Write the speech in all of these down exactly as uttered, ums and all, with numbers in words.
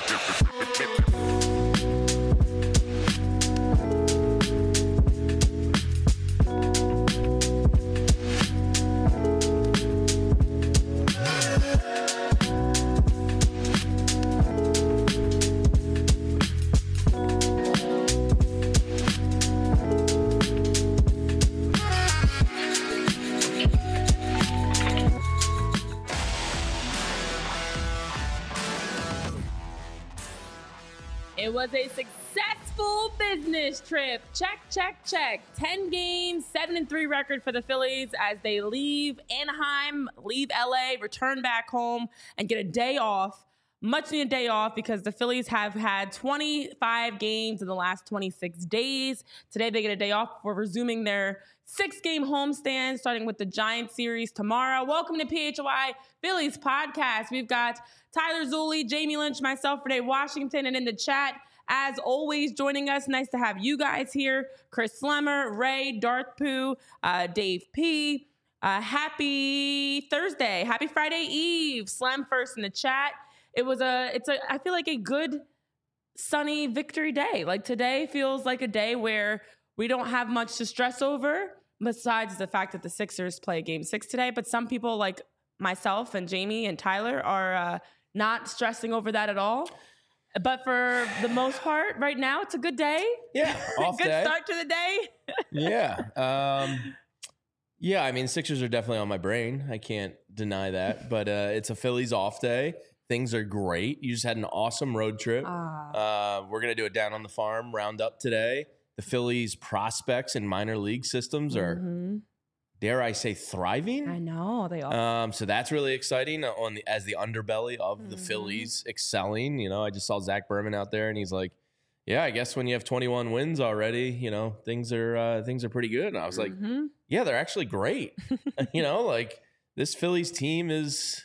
It was a successful business trip. Check, check, check. ten games, seven and three record for the Phillies as they leave Anaheim, leave L A, return back home, and get a day off. Much needed day off because the Phillies have had twenty-five games in the last twenty-six days. Today they get a day off for resuming their six-game homestand, starting with the Giants series tomorrow. Welcome to P H O I Phillies podcast. We've got Tyler Zulli, Jamie Lynch, myself, Renee Washington, and in the chat, as always, joining us. Nice to have you guys here. Chris Slemmer, Ray, Darth Pooh, uh, Dave P. Uh, happy Thursday. Happy Friday Eve. Slem first in the chat. It was a, it's a, I feel like a good sunny victory day. Like today feels like a day where we don't have much to stress over besides the fact that the Sixers play game six today. But some people like myself and Jamie and Tyler are uh, not stressing over that at all. But for the most part, right now, it's a good day. Yeah, off good day. start to the day. yeah. Um, yeah, I mean, Sixers are definitely on my brain. I can't deny that. But uh, it's a Phillies off day. Things are great. You just had an awesome road trip. Uh, uh, we're going to do it down on the farm roundup today. The Phillies prospects and minor league systems are, mm-hmm. dare I say, thriving. I know they are. Um, so that's really exciting on the, as the underbelly of mm-hmm. the Phillies excelling. You know, I just saw Zach Berman out there, and he's like, "Yeah, I guess when you have twenty-one wins already, you know, things are uh, things are pretty good." And I was mm-hmm. like, "Yeah, they're actually great." you know, like this Phillies team is,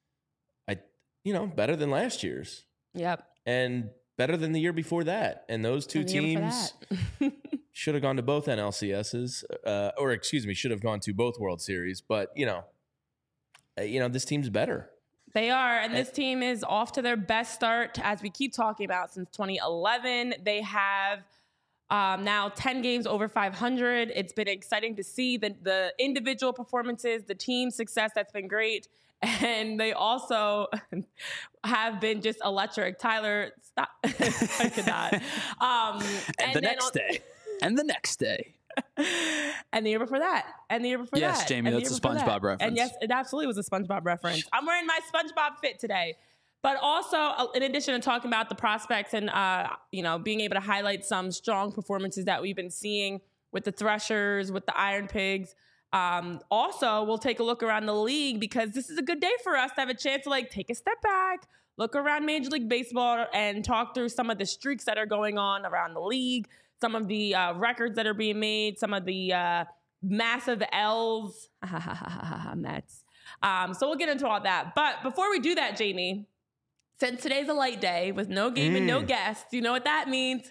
I, you know, better than last year's. Yep, and better than the year before that. And those two teams should have gone to both N L C S's, uh, or excuse me, should have gone to both World Series. But, you know, uh, you know, this team's better. They are. And this team is off to their best start, as we keep talking about, since twenty eleven. They have um, now ten games over five hundred. It's been exciting to see the, the individual performances, the team success. That's been great. And they also have been just electric. Tyler, stop. I could not. Um, and, and the next on- day. And the next day. And the year before that. And the year before yes, that. Yes, Jamie, and that's a SpongeBob that. reference. And yes, it absolutely was a SpongeBob reference. I'm wearing my SpongeBob fit today. But also, in addition to talking about the prospects and, uh, you know, being able to highlight some strong performances that we've been seeing with the Threshers, with the Iron Pigs, Um, also, we'll take a look around the league because this is a good day for us to have a chance to like take a step back, look around Major League Baseball and talk through some of the streaks that are going on around the league, some of the uh, records that are being made, some of the uh, massive L's. Mets. Um, so we'll get into all that. But before we do that, Jamie, since today's a light day with no game mm. and no guests, you know what that means?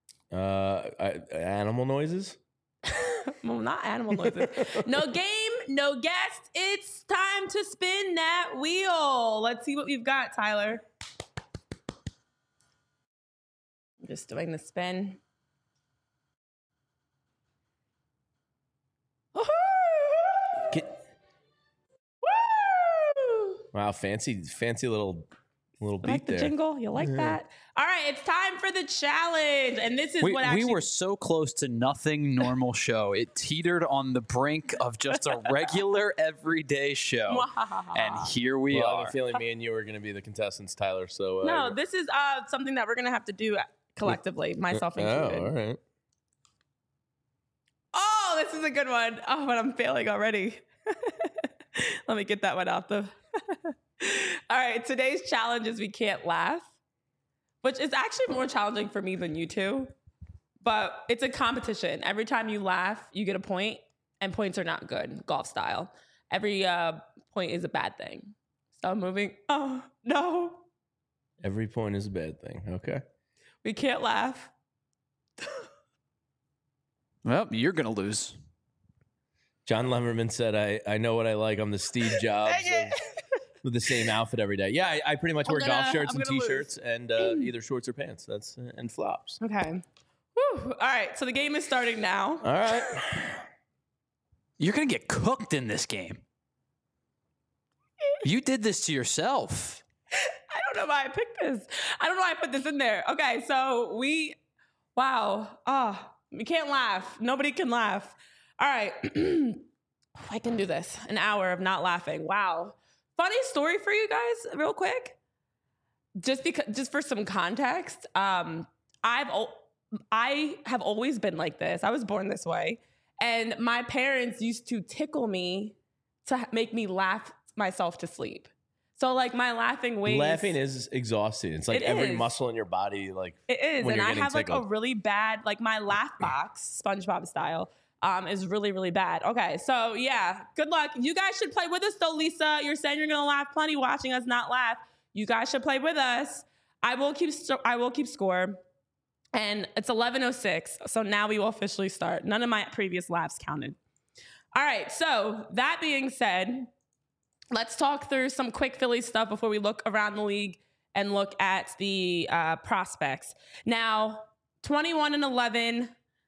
Uh, I, animal noises? Well, not animal noises. No game, no guest. It's time to spin that wheel. Let's see what we've got, Tyler. I'm just doing the spin. Get- wow, fancy, fancy little... little beat like the there. jingle, you like yeah. that? All right, it's time for the challenge, and this is we, what actually we were so close to nothing normal show. It teetered on the brink of just a regular everyday show, and here we well, are. I have a feeling me and you are going to be the contestants, Tyler. So uh, no, this is uh, something that we're going to have to do collectively, myself included. Oh, all right. Oh, this is a good one. Oh, but I'm failing already. Let me get that one out the. All right, today's challenge is we can't laugh, which is actually more challenging for me than you two, but it's a competition. Every time you laugh, you get a point, and points are not good, golf style. Every uh, point is a bad thing. So I'm moving. Oh, no. Every point is a bad thing. Okay. We can't laugh. Well, you're going to lose. John Lemmerman said, I, I know what I like. I'm the Steve Jobs of, with the same outfit every day. Yeah, I, I pretty much I'm wear gonna- golf shirts I'm and gonna t-shirts and uh, either shorts or pants. That's uh, and flops. Okay. Whew. All right. So the game is starting now. All right. You're going to get cooked in this game. You did this to yourself. I don't know why I picked this. I don't know why I put this in there. Okay, so we, wow. Oh, we can't laugh. Nobody can laugh. All right. I can do this. An hour of not laughing. Wow. Funny story for you guys, real quick. Just because, just for some context, um, I've I have always been like this. I was born this way. And my parents used to tickle me to make me laugh myself to sleep. So like my laughing ways. Laughing is exhausting. It's like It every is. muscle in your body, like It is. when And you're I getting have like a tickled. really bad, like my laugh box, SpongeBob style, um, is really, really bad. Okay. So yeah, good luck. You guys should play with us though, Lisa. You're saying you're going to laugh plenty watching us not laugh. You guys should play with us. I will keep, st- I will keep score. And it's eleven oh six, so now we will officially start. None of my previous laughs counted. All right, so that being said, let's talk through some quick Phillies stuff before we look around the league and look at the uh, prospects. Now, twenty-one and eleven,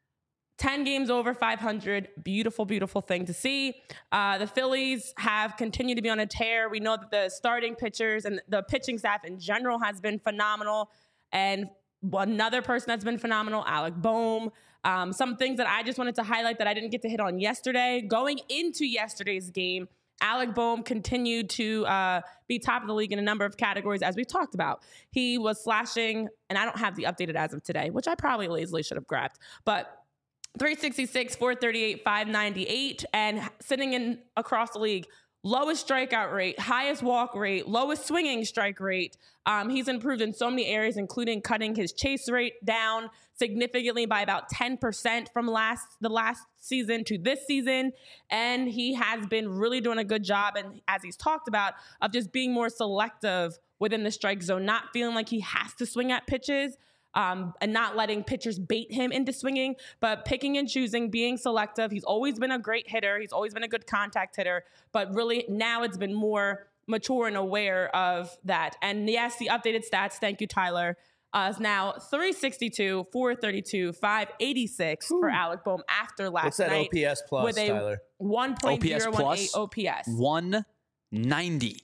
ten games over five hundred. Beautiful, beautiful thing to see. Uh, the Phillies have continued to be on a tear. We know that the starting pitchers and the pitching staff in general has been phenomenal. And another person that's been phenomenal, Alec Bohm. Um, some things that I just wanted to highlight that I didn't get to hit on yesterday. Going into yesterday's game, Alec Bohm continued to uh, be top of the league in a number of categories, as we've talked about. He was slashing, and I don't have the updated as of today, which I probably lazily should have grabbed, but three sixty-six, four thirty-eight, five ninety-eight, and sitting in across the league, lowest strikeout rate, highest walk rate, lowest swinging strike rate. Um, he's improved in so many areas, including cutting his chase rate down significantly by about ten percent from last the last season to this season. And he has been really doing a good job, and as he's talked about, of just being more selective within the strike zone, not feeling like he has to swing at pitches. Um, and not letting pitchers bait him into swinging, but picking and choosing, being selective. He's always been a great hitter. He's always been a good contact hitter, but really now it's been more mature and aware of that. And yes, the updated stats, thank you, Tyler, uh, is now three sixty-two, four thirty-two, five eighty-six Ooh. For Alec Bohm after last What's that night. O P S plus, with a Tyler? one point oh one eight O P S. one ninety.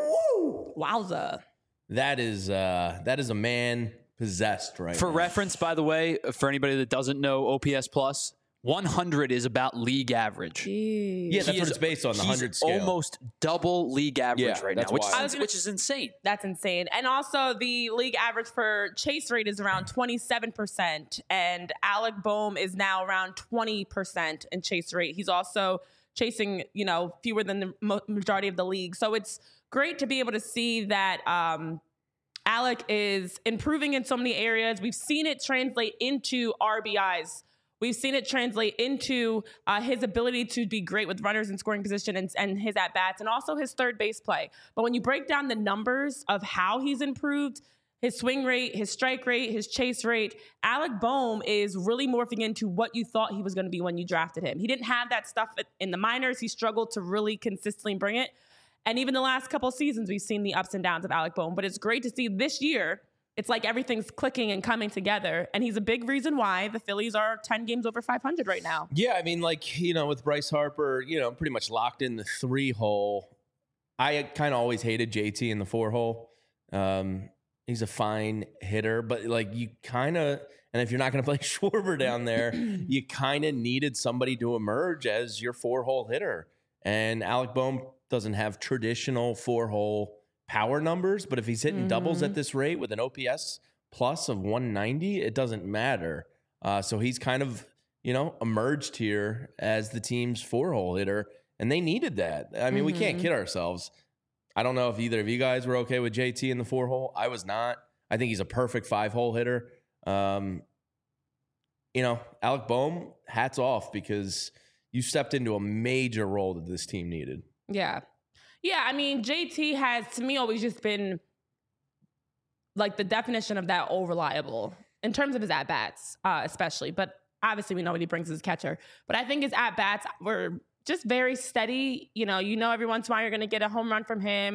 Woo! Wowza. That is, uh, that is a man possessed right For now. reference, by the way, for anybody that doesn't know O P S plus, one hundred is about league average. Jeez. Yeah, that's He what is- it's based on, the one hundred scale. Almost double league average Yeah, right now, that's which wild. is, which is insane. That's insane. And also the league average for chase rate is around twenty-seven percent. And Alec Bohm is now around twenty percent in chase rate. He's also chasing, you know, fewer than the mo- majority of the league. So it's great to be able to see that um, Alec is improving in so many areas. We've seen it translate into R B Is. We've seen it translate into uh, his ability to be great with runners in scoring position and, and his at-bats and also his third base play. But when you break down the numbers of how he's improved, his swing rate, his strike rate, his chase rate, Alec Bohm is really morphing into what you thought he was going to be when you drafted him. He didn't have that stuff in the minors. He struggled to really consistently bring it. And even the last couple of seasons, we've seen the ups and downs of Alec Bohm. But it's great to see this year, it's like everything's clicking and coming together. And he's a big reason why the Phillies are ten games over five hundred right now. Yeah, I mean, like, you know, with Bryce Harper, you know, pretty much locked in the three hole. I kind of always hated J T in the four hole. Um, he's a fine hitter, but like you kind of, and if you're not going to play Schwarber down there, you kind of needed somebody to emerge as your four hole hitter. And Alec Bohm doesn't have traditional four hole power numbers, but if he's hitting mm-hmm. doubles at this rate with an O P S plus of one ninety, it doesn't matter. Uh, so he's kind of, you know, emerged here as the team's four hole hitter, and they needed that. I mean, mm-hmm. we can't kid ourselves. I don't know if either of you guys were okay with J T in the four hole. I was not. I think he's a perfect five hole hitter. Um, you know, Alec Bohm, hats off, because you stepped into a major role that this team needed. Yeah. Yeah, I mean, J T has, to me, always just been like the definition of that all reliable in terms of his at-bats, uh, especially. But obviously, we know what he brings as a catcher. But I think his at-bats were just very steady. You know, you know every once in a while you're going to get a home run from him.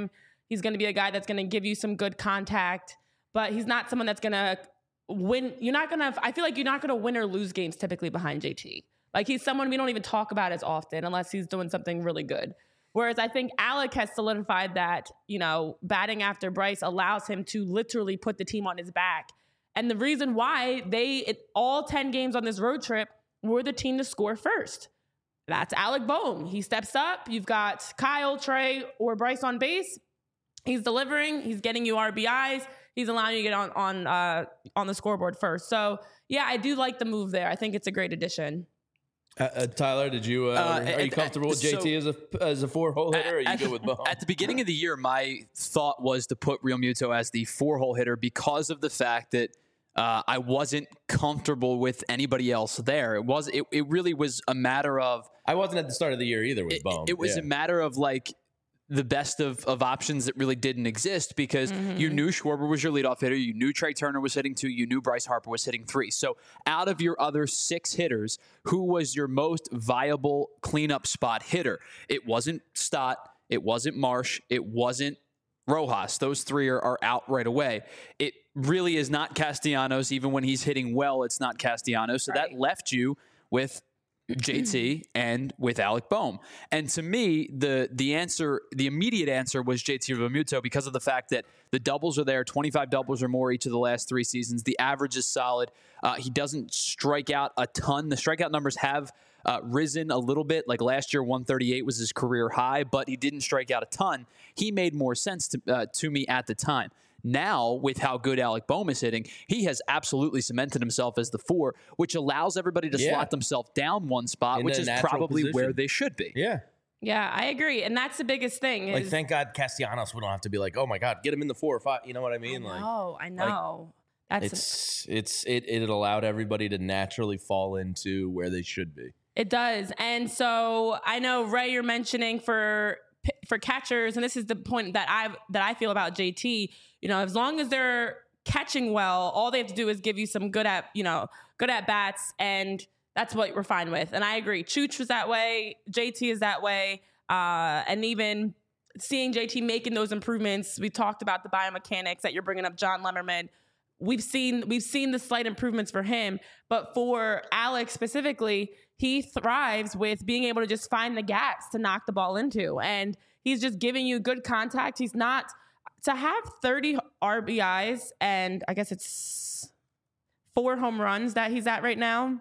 He's going to be a guy that's going to give you some good contact, but he's not someone that's going to win. You're not going to, I feel like you're not going to win or lose games typically behind J T. Like he's someone we don't even talk about as often unless he's doing something really good. Whereas I think Alec has solidified that, you know, batting after Bryce allows him to literally put the team on his back. And the reason why they, it, all ten games on this road trip, were the team to score first. That's Alec Bohm. He steps up. You've got Kyle, Trey, or Bryce on base. He's delivering. He's getting you R B Is. He's allowing you to get on on uh, on the scoreboard first. So, yeah, I do like the move there. I think it's a great addition. Uh, uh, Tyler, did you uh, Uh, are you at- comfortable with so- J T as a as a four hole hitter? Or are you At- good with Bohm? At the beginning of the year, my thought was to put Real Muto as the four-hole hitter because of the fact that uh, I wasn't comfortable with anybody else there. It was it, it really was a matter of I wasn't at the start of the year either with it, Bohm. it was yeah. a matter of like the best of, of options that really didn't exist because Mm-hmm. you knew Schwarber was your leadoff hitter. You knew Trey Turner was hitting two. You knew Bryce Harper was hitting three. So out of your other six hitters, who was your most viable cleanup spot hitter? It wasn't Stott. It wasn't Marsh. It wasn't Rojas. Those three are, are out right away. It really is not Castellanos. Even when he's hitting well, it's not Castellanos. So Right. that left you with J T and with Alec Bohm. And to me, the the answer, the immediate answer was J T Realmuto because of the fact that the doubles are there, twenty-five doubles or more each of the last three seasons. The average is solid. Uh, he doesn't strike out a ton. The strikeout numbers have uh, risen a little bit. Like last year, one thirty-eight was his career high, but he didn't strike out a ton. He made more sense to, uh, to me at the time. Now, with how good Alec Bohm is hitting, he has absolutely cemented himself as the four, which allows everybody to Yeah. slot themselves down one spot, In which a is natural probably position. where they should be. Yeah. Yeah, I agree. And that's the biggest thing. Like, is- thank God Castellanos, we don't have to be like, oh my God, get him in the four or five. You know what I mean? I Like, know, I know. That's it's it's it it allowed everybody to naturally fall into where they should be. It does. And so I know, Ray, you're mentioning for for catchers, and this is the point that I that I feel about J T, you know, as long as they're catching well, all they have to do is give you some good at, you know, good at bats, and that's what we're fine with. And I agree. Chooch was that way. J T is that way. Uh, and even seeing J T making those improvements, we talked about the biomechanics that you're bringing up, John Lemmerman. We've seen we've seen the slight improvements for him, but for Alex specifically, he thrives with being able to just find the gaps to knock the ball into, and he's just giving you good contact. He's not to have thirty R B Is, and I guess it's four home runs that he's at right now,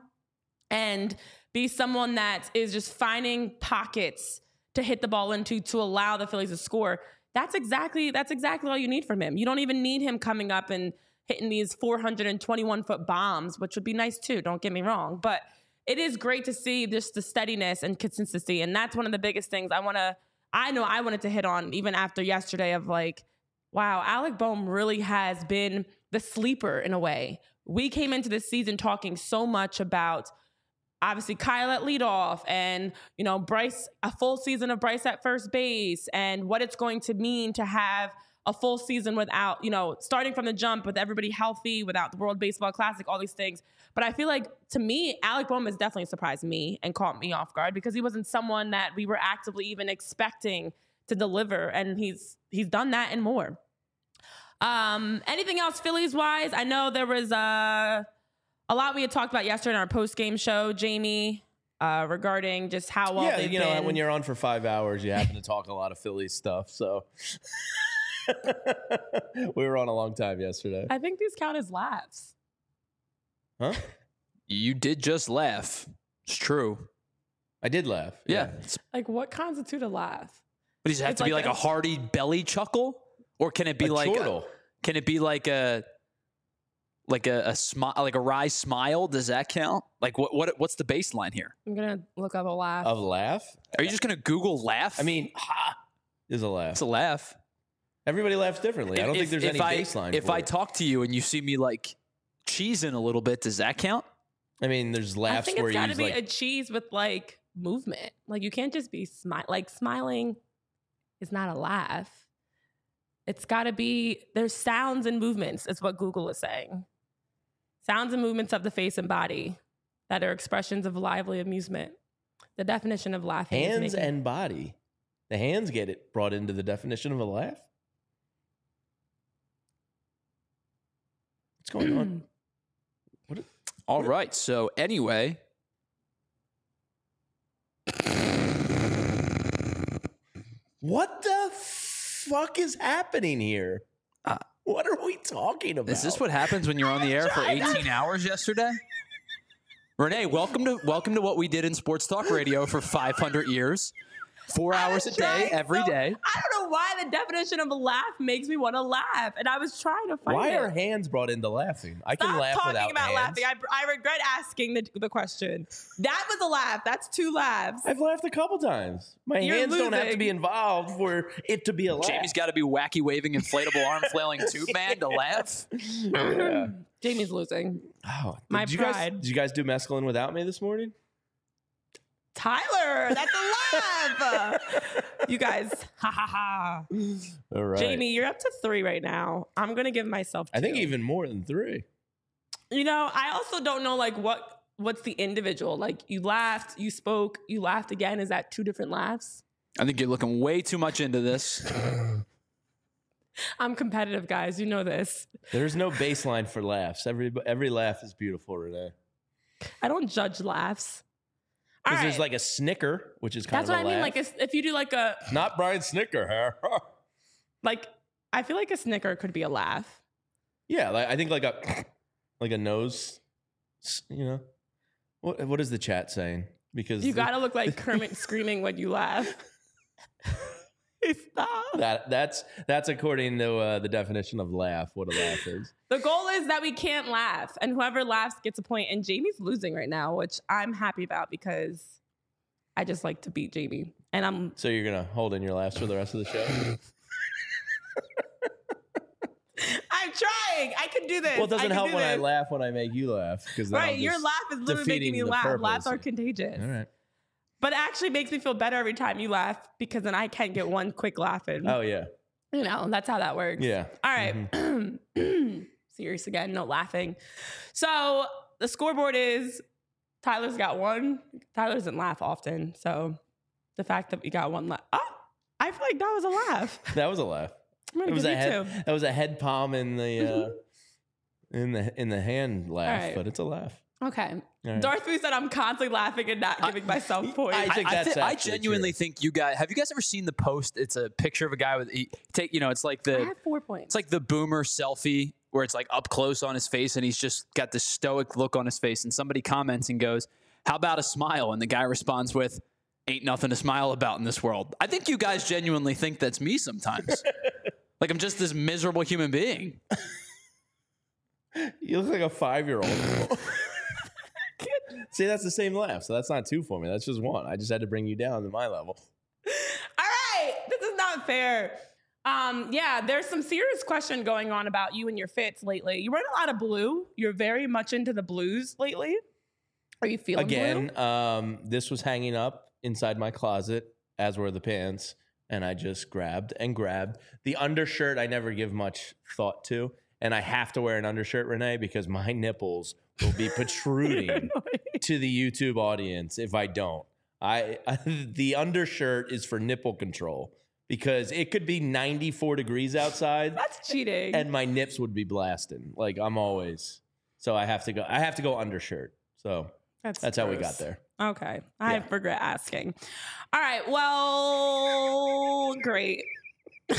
and be someone that is just finding pockets to hit the ball into to allow the Phillies to score. That's exactly that's exactly all you need from him. You don't even need him coming up and hitting these four hundred twenty-one foot bombs, which would be nice too. Don't get me wrong, but it is great to see just the steadiness and consistency, and that's one of the biggest things I want to. I know I wanted to hit on even after yesterday of like, wow, Alec Bohm really has been the sleeper in a way. We came into this season talking so much about obviously Kyle at leadoff and, you know, Bryce, a full season of Bryce at first base and what it's going to mean to have a full season without, you know, starting from the jump with everybody healthy, without the World Baseball Classic, all these things. But I feel like, to me, Alec Bohm has definitely surprised me and caught me off guard because he wasn't someone that we were actively even expecting to deliver. And he's he's done that and more. Um, anything else Phillies-wise? I know there was uh, a lot we had talked about yesterday in our post-game show, Jamie, uh, regarding just how well yeah, they've you know, been. when you're on for five hours, you happen to talk a lot of Phillies stuff. So we were on a long time yesterday. I think these count as laughs. Huh? You did just laugh. It's true. I did laugh. Yeah. It's- Like, what constitute a laugh? But does it have It's to be like like a- a hearty belly chuckle? Or can it be A like a, chortle. can it be like a like a, a smile like a wry smile? Does that count? Like what what what's the baseline here? I'm going to look up a laugh. Of laugh? Are you just gonna Google laugh? I mean, ha is a laugh. it's a laugh. Everybody laughs differently. I don't If- think there's if any I, baseline. If for I it. talk to you and you see me like cheesing a little bit, does that count? I mean, there's I laughs think where it's you got to use be like a cheese with, like, movement. Like, you can't just be smile. Like, smiling is not a laugh. It's got to be, there's sounds and movements, is what Google is saying. Sounds and movements of the face and body that are expressions of lively amusement. The definition of laughing is hands making- and body. The hands get it brought into the definition of a laugh. What's going on? What? All right. So anyway, what the fuck is happening here? Uh, what are we talking about? Is this what happens when you're on the air for eighteen hours yesterday? Renee, welcome to welcome to what we did in sports talk radio for five hundred years. Four hours a day, every so, day. I don't know why the definition of a laugh makes me want to laugh, and I was trying to find why it. Why are hands brought into laughing? I Stop can laugh talking without about hands. laughing. I, I regret asking the, the question. That was a laugh. That's two laughs. I've laughed a couple times. My You're hands losing. don't have to be involved for it to be a laugh. Jamie's got to be wacky waving inflatable arm flailing tube man to laugh. Yeah. Jamie's losing. Oh, My did you pride. Guys, did you guys do mescaline without me this morning? Tyler, that's a laugh. You guys, ha ha ha. All right. Jamie, you're up to three right now. I'm going to give myself two. I think even more than three. You know, I also don't know, like, what what's the individual? Like, you laughed, you spoke, you laughed again. Is that two different laughs? I think you're looking way too much into this. I'm competitive, guys. You know this. There's no baseline for laughs. Every every laugh is beautiful, Renee. I don't judge laughs. All Because right. there's like a snicker, which is kind That's of a what I mean. laugh. Like, a, if you do like a, Not Brian Snicker, huh? like, I feel like a snicker could be a laugh. Yeah, like, I think like a like a nose, you know. What what is the chat saying? Because You got to look like Kermit screaming when you laugh. Stop. that that's that's according to uh, the definition of laugh. What a laugh is. The goal is that we can't laugh, and whoever laughs gets a point. And Jamie's losing right now, which I'm happy about because I just like to beat Jamie. And I'm So you're gonna hold in your laughs for the rest of the show? I'm trying. I can do this. Well, it I doesn't can help do when I this. laugh when I make you laugh. Because Right, your laugh is literally making defeating me the laugh. purpose. Laughs are contagious. All right. But it actually makes me feel better every time you laugh because then I can't get one quick laugh in. Oh yeah. You know, that's how that works. Yeah. All right. Mm-hmm. Serious again, no laughing. So the scoreboard is Tyler's got one. Tyler doesn't laugh often. So the fact that we got one laugh. Oh, I feel like that was a laugh. That was a laugh. I'm It gonna was give a you head. two. That was a head palm in the uh, in the in the hand laugh, right. but it's a laugh. Okay. All right. Darth Boo said I'm constantly laughing and not giving myself points. I think I, that's thi- I actually genuinely true. think you guys have you guys ever seen the post? It's a picture of a guy with he, take you know it's like I the have four points. it's like the boomer selfie where it's like up close on his face and he's just got this stoic look on his face and somebody comments and goes, "How about a smile?" And the guy responds with, "Ain't nothing to smile about in this world." I think you guys genuinely think that's me sometimes. Like I'm just this miserable human being. You look like a five-year-old. See, that's the same laugh, so that's not two for me. That's just one. I just had to bring you down to my level. All right, this is not fair. Um, yeah, there's some serious question going on about you and your fits lately. You run a lot of blue. You're very much into the blues lately. Are you feeling Again, blue? um, this was hanging up inside my closet, as were the pants, and I just grabbed and grabbed. The undershirt I never give much thought to, and I have to wear an undershirt, Renee, because my nipples will be protruding to the YouTube audience if I don't. I, I the undershirt is for nipple control because it could be ninety-four degrees outside That's cheating. and my nips would be blasting. Like I'm always. So I have to go I have to go undershirt. So that's that's how we gross. got there. Okay, I Yeah. regret asking. All right, well, great. This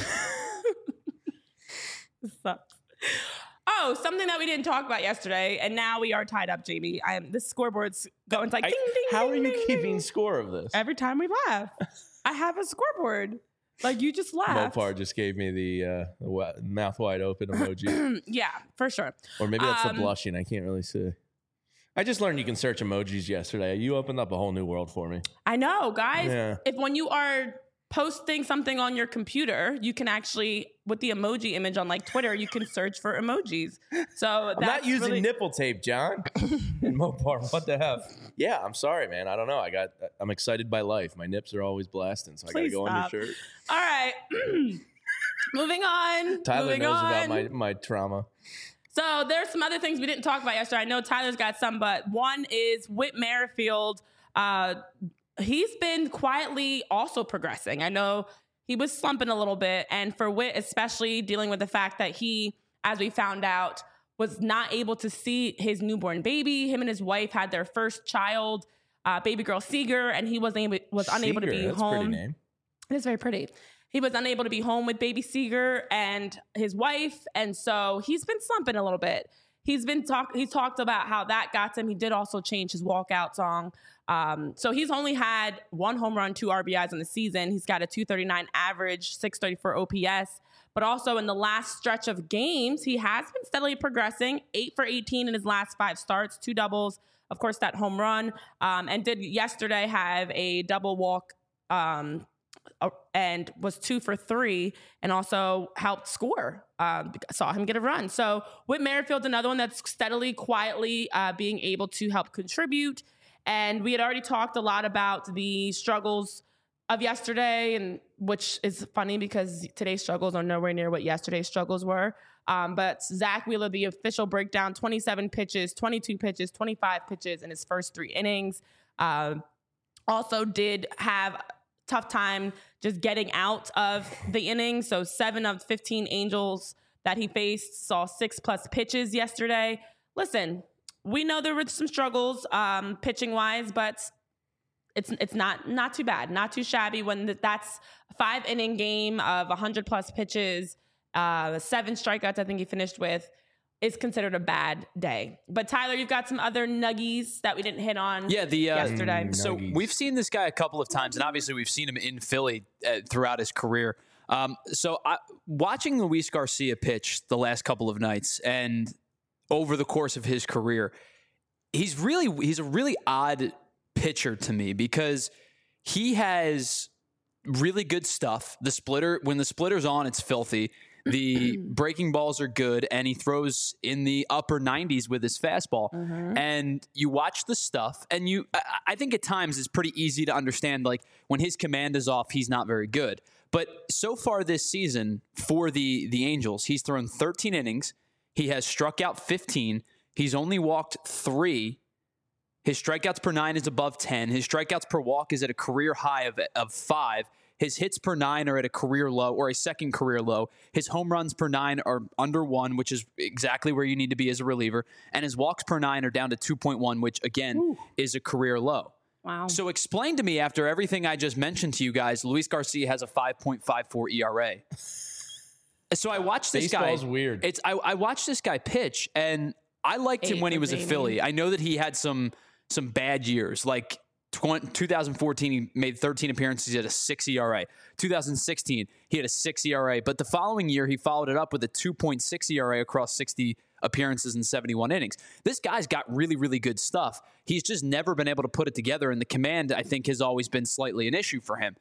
sucks. Oh, something that we didn't talk about yesterday, and now we are tied up, Jamie. I'm the scoreboard's going. It's like I- ding, ding, how ding, are you ding, keeping ding. score of this? Every time we laugh, I have a scoreboard. Like you just laughed. Mopar just gave me the, uh, the wa- mouth wide open emoji. Yeah, for sure. Or maybe that's Um, the blushing. I can't really see. I just learned you can search emojis yesterday. You opened up a whole new world for me. I know, guys. Yeah. If when you are posting something on your computer, you can actually, with the emoji image on like Twitter, you can search for emojis. So I'm that's not using really, nipple tape, John. And Mopar, what the hell? Yeah, I'm sorry, man. I don't know. I got. I'm excited by life. My nips are always blasting, so I got to Please go stop. undershirt. All right. Moving on. Tyler Moving knows on. about my my trauma. So there's some other things we didn't talk about yesterday. I know Tyler's got some, but one is Whit Merrifield. Uh, he's been quietly also progressing. I know he was slumping a little bit, and for Whit especially, dealing with the fact that he, as we found out, was not able to see his newborn baby. Him and his wife had their first child, uh, baby girl Seeger, and he wasn't able, was unable to Seeger, be that's home. a pretty name. It is very pretty. He was unable to be home with baby Seeger and his wife, and so he's been slumping a little bit. He's been talk. He talked about how that got to him. He did also change his walkout song. Um, so he's only had one home run, two R B Is in the season. He's got a two thirty-nine average, six thirty-four O P S. But also in the last stretch of games, he has been steadily progressing. Eight for eighteen in his last five starts, two doubles, of course, that home run, um, and did yesterday have a double walk. Um, and was two for three and also helped score. Um, saw him get a run. So Whit Merrifield's another one that's steadily, quietly uh, being able to help contribute. And we had already talked a lot about the struggles of yesterday, and which is funny because today's struggles are nowhere near what yesterday's struggles were. Um, but Zach Wheeler, the official breakdown, twenty-seven pitches, twenty-two pitches, twenty-five pitches in his first three innings. Uh, also did have tough time just getting out of the inning. So seven of fifteen Angels that he faced saw six plus pitches yesterday. Listen, we know there were some struggles um, pitching wise, but it's it's not not too bad, not too shabby when that's a five inning game of one hundred plus pitches, uh, seven strikeouts I think he finished with. Is considered a bad day. But Tyler, you've got some other nuggies that we didn't hit on yeah, the, uh, yesterday. So Nuggies. we've seen this guy a couple of times, and obviously we've seen him in Philly uh, throughout his career. Um, so I, watching Luis Garcia pitch the last couple of nights and over the course of his career, he's really he's a really odd pitcher to me because he has really good stuff. The splitter, when the splitter's on, it's filthy. The breaking balls are good, and he throws in the upper nineties with his fastball. Mm-hmm. And you watch the stuff, and you, I, I think at times it's pretty easy to understand, like, when his command is off, he's not very good. But so far this season for the, the Angels, he's thrown thirteen innings. He has struck out fifteen. He's only walked three. His strikeouts per nine is above ten. His strikeouts per walk is at a career high of, of five. His hits per nine are at a career low or a second career low. His home runs per nine are under one, which is exactly where you need to be as a reliever. And his walks per nine are down to two point one, which, again, Ooh. is a career low. Wow. So explain to me, after everything I just mentioned to you guys, Luis Garcia has a five point five four E R A. So I watched this Baseball's guy. Baseball's weird. It's I, I watched this guy pitch, and I liked Eight him when he was baby. a Philly. I know that he had some some bad years, like two thousand fourteen, he made thirteen appearances. He had a six E R A. two thousand sixteen, he had a six E R A. But the following year, he followed it up with a two point six E R A across sixty appearances and seventy-one innings. This guy's got really, really good stuff. He's just never been able to put it together, and the command, I think, has always been slightly an issue for him.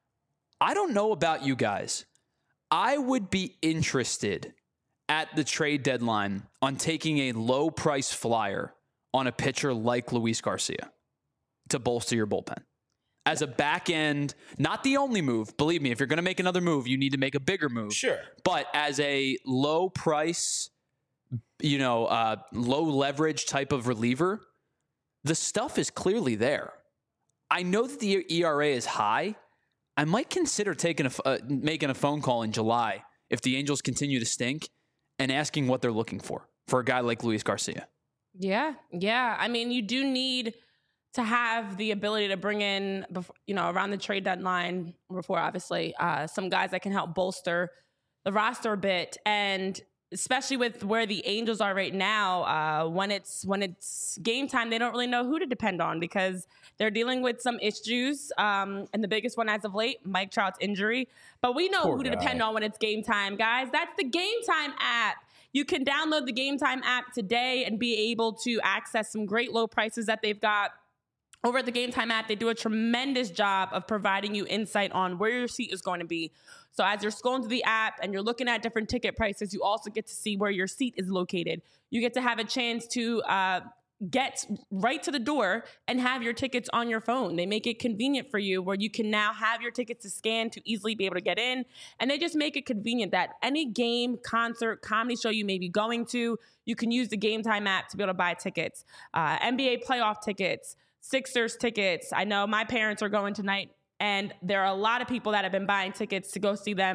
I don't know about you guys. I would be interested at the trade deadline on taking a low-price flyer on a pitcher like Luis Garcia to bolster your bullpen. As a back end, not the only move. Believe me, if you're going to make another move, you need to make a bigger move. Sure. But as a low price, you know, uh, low leverage type of reliever, the stuff is clearly there. I know that the E R A is high. I might consider taking a, uh, making a phone call in July if the Angels continue to stink and asking what they're looking for for a guy like Luis Garcia. Yeah, yeah. I mean, you do need to have the ability to bring in, before, you know, around the trade deadline, before obviously, uh, some guys that can help bolster the roster a bit. And especially with where the Angels are right now, uh, when it's when it's game time, they don't really know who to depend on because they're dealing with some issues. Um, and the biggest one as of late, Mike Trout's injury. But we know Poor who to guy. depend on when it's game time, guys. That's the Game Time app. You can download the Game Time app today and be able to access some great low prices that they've got. Over at the Game Time app, they do a tremendous job of providing you insight on where your seat is going to be. So as you're scrolling through the app and you're looking at different ticket prices, you also get to see where your seat is located. You get to have a chance to uh, get right to the door and have your tickets on your phone. They make it convenient for you where you can now have your tickets to scan to easily be able to get in. And they just make it convenient that any game, concert, comedy show you may be going to, you can use the Game Time app to be able to buy tickets. Uh, N B A playoff tickets, Sixers tickets. I know my parents are going tonight, and there are a lot of people that have been buying tickets to go see them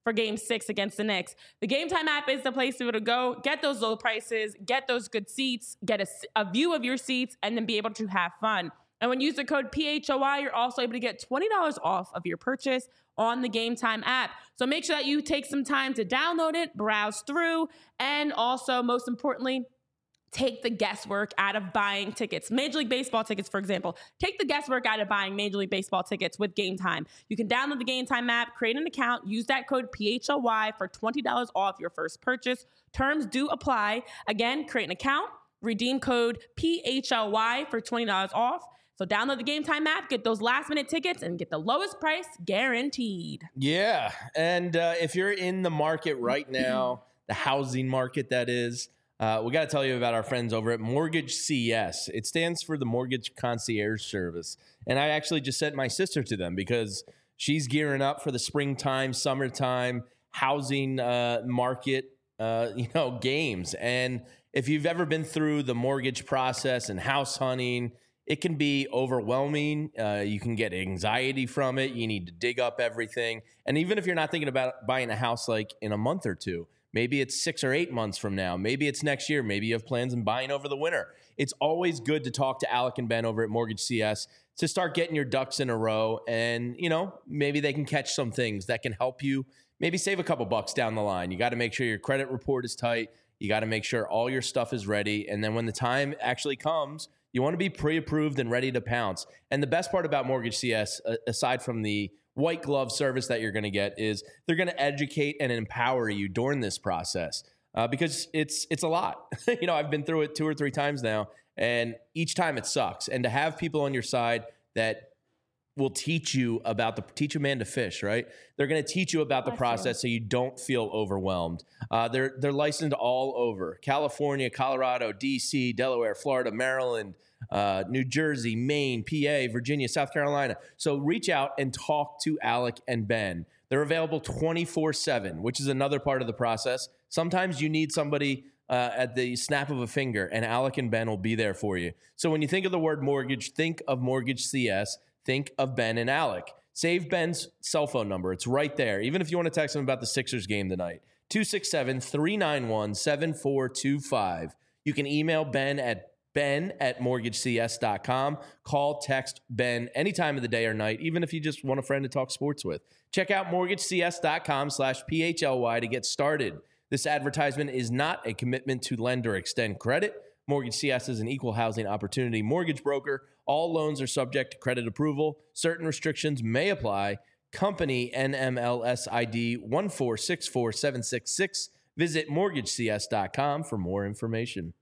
for game six against the Knicks. The Game Time app is the place to go. Get those low prices, get those good seats, get a, a view of your seats, and then be able to have fun. And when you use the code P H O Y, you're also able to get twenty dollars off of your purchase on the Game Time app. So make sure that you take some time to download it, browse through, and also, most importantly, take the guesswork out of buying tickets. Major League Baseball tickets, for example. Take the guesswork out of buying Major League Baseball tickets with Game Time. You can download the Game Time app, create an account, use that code P H O Y for twenty dollars off your first purchase. Terms do apply. Again, create an account, redeem code P H O Y for twenty dollars off. So download the Game Time app, get those last minute tickets, and get the lowest price guaranteed. Yeah. And uh, if you're in the market right now, the housing market that is, Uh, we got to tell you about our friends over at Mortgage C S. It stands for the Mortgage Concierge Service. And I actually just sent my sister to them because she's gearing up for the springtime, summertime housing uh, market, uh, you know, games. And if you've ever been through the mortgage process and house hunting, it can be overwhelming. Uh, you can get anxiety from it. You need to dig up everything. And even if you're not thinking about buying a house like in a month or two, maybe it's six or eight months from now. Maybe it's next year. Maybe you have plans on buying over the winter. It's always good to talk to Alec and Ben over at Mortgage C S to start getting your ducks in a row. And, you know, maybe they can catch some things that can help you maybe save a couple bucks down the line. You got to make sure your credit report is tight. You got to make sure all your stuff is ready. And then when the time actually comes, you want to be pre-approved and ready to pounce. And the best part about Mortgage C S, aside from the white glove service that you're going to get, is they're going to educate and empower you during this process uh, because it's it's a lot. You know, I've been through it two or three times now, and each time it sucks. And to have people on your side that will teach you about the teach a man to fish, right? They're going to teach you about the process so you don't feel overwhelmed. Uh, they're they're licensed all over: California, Colorado, D C, Delaware, Florida, Maryland, uh, New Jersey, Maine, P A, Virginia, South Carolina. So reach out and talk to Alec and Ben. They're available twenty-four seven, which is another part of the process. Sometimes you need somebody uh, at the snap of a finger, and Alec and Ben will be there for you. So when you think of the word mortgage, think of Mortgage C S. Think of Ben and Alec. Save Ben's cell phone number. It's right there. Even if you want to text him about the Sixers game tonight, two six seven, three nine one, seven four two five. You can email Ben at ben at mortgage c s dot com. Call, text Ben any time of the day or night, even if you just want a friend to talk sports with. Check out mortgage c s dot com slash P H L Y to get started. This advertisement is not a commitment to lend or extend credit. Mortgage C S is an equal housing opportunity mortgage broker. All loans are subject to credit approval. Certain restrictions may apply. Company N M L S I D one four six four seven six six. Visit mortgage c s dot com for more information.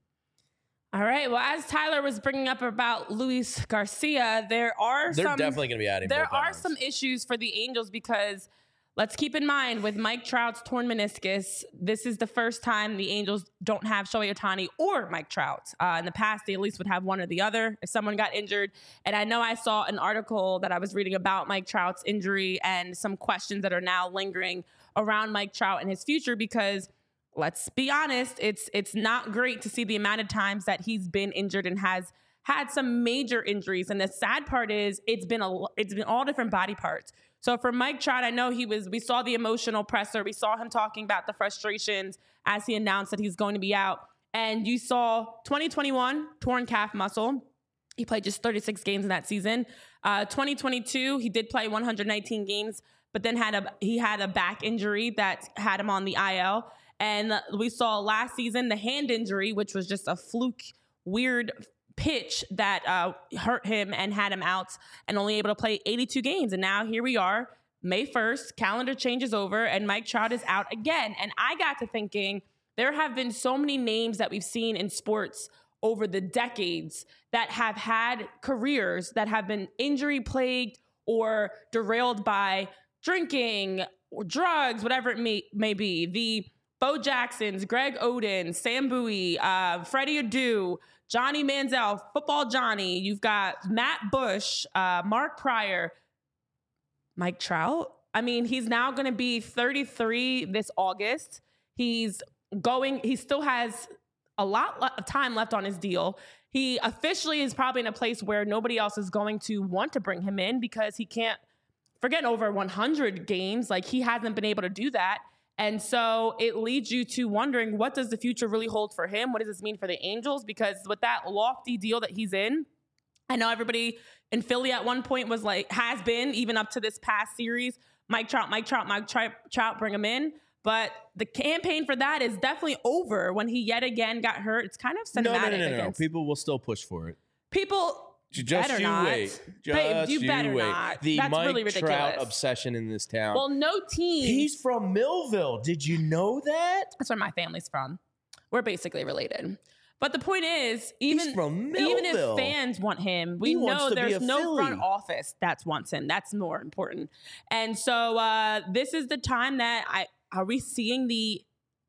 All right. Well, as Tyler was bringing up about Luis Garcia, there are They're some, definitely going to be adding There more are pounds. some issues for the Angels because let's keep in mind with Mike Trout's torn meniscus, this is the first time the Angels don't have Shohei Ohtani or Mike Trout. Uh, in the past, they at least would have one or the other if someone got injured. And I know I saw an article that I was reading about Mike Trout's injury and some questions that are now lingering around Mike Trout and his future because let's be honest, it's it's not great to see the amount of times that he's been injured and has had some major injuries. And the sad part is it's been a it's been all different body parts. So for Mike Trout, I know he was, we saw the emotional presser. We saw him talking about the frustrations as he announced that he's going to be out. And you saw twenty twenty-one, torn calf muscle. He played just thirty-six games in that season. Uh, twenty twenty-two, he did play one hundred nineteen games, but then had a he had a back injury that had him on the I L. And we saw last season the hand injury, which was just a fluke, weird pitch that uh, hurt him and had him out and only able to play eighty-two games. And now here we are, May first, calendar changes over and Mike Trout is out again. And I got to thinking, there have been so many names that we've seen in sports over the decades that have had careers that have been injury plagued or derailed by drinking or drugs, whatever it may, may be. The Bo Jacksons, Greg Oden, Sam Bowie, uh, Freddie Adu, Johnny Manziel, Football Johnny. You've got Matt Bush, uh, Mark Pryor, Mike Trout. I mean, he's now going to be thirty-three this August. He's going, he still has a lot of time left on his deal. He officially is probably in a place where nobody else is going to want to bring him in because he can't forget over one hundred games. Like, he hasn't been able to do that. And so it leads you to wondering, what does the future really hold for him? What does this mean for the Angels? Because with that lofty deal that he's in, I know everybody in Philly at one point was like, has been, even up to this past series, Mike Trout, Mike Trout, Mike Trout, bring him in. But the campaign for that is definitely over when he yet again got hurt. It's kind of cinematic. No, no, no, no, no. Against People will still push for it. People... Just better you not. wait. Just Babe, you you better wait. not. The That's Mike really ridiculous. Trout obsession in this town. Well, no team. He's from Millville. Did you know that? That's where my family's from. We're basically related. But the point is, even, He's from even if Millville. fans want him, we He wants know to be there's a no Philly. front office that wants him. That's more important. And so uh, this is the time that I are we seeing the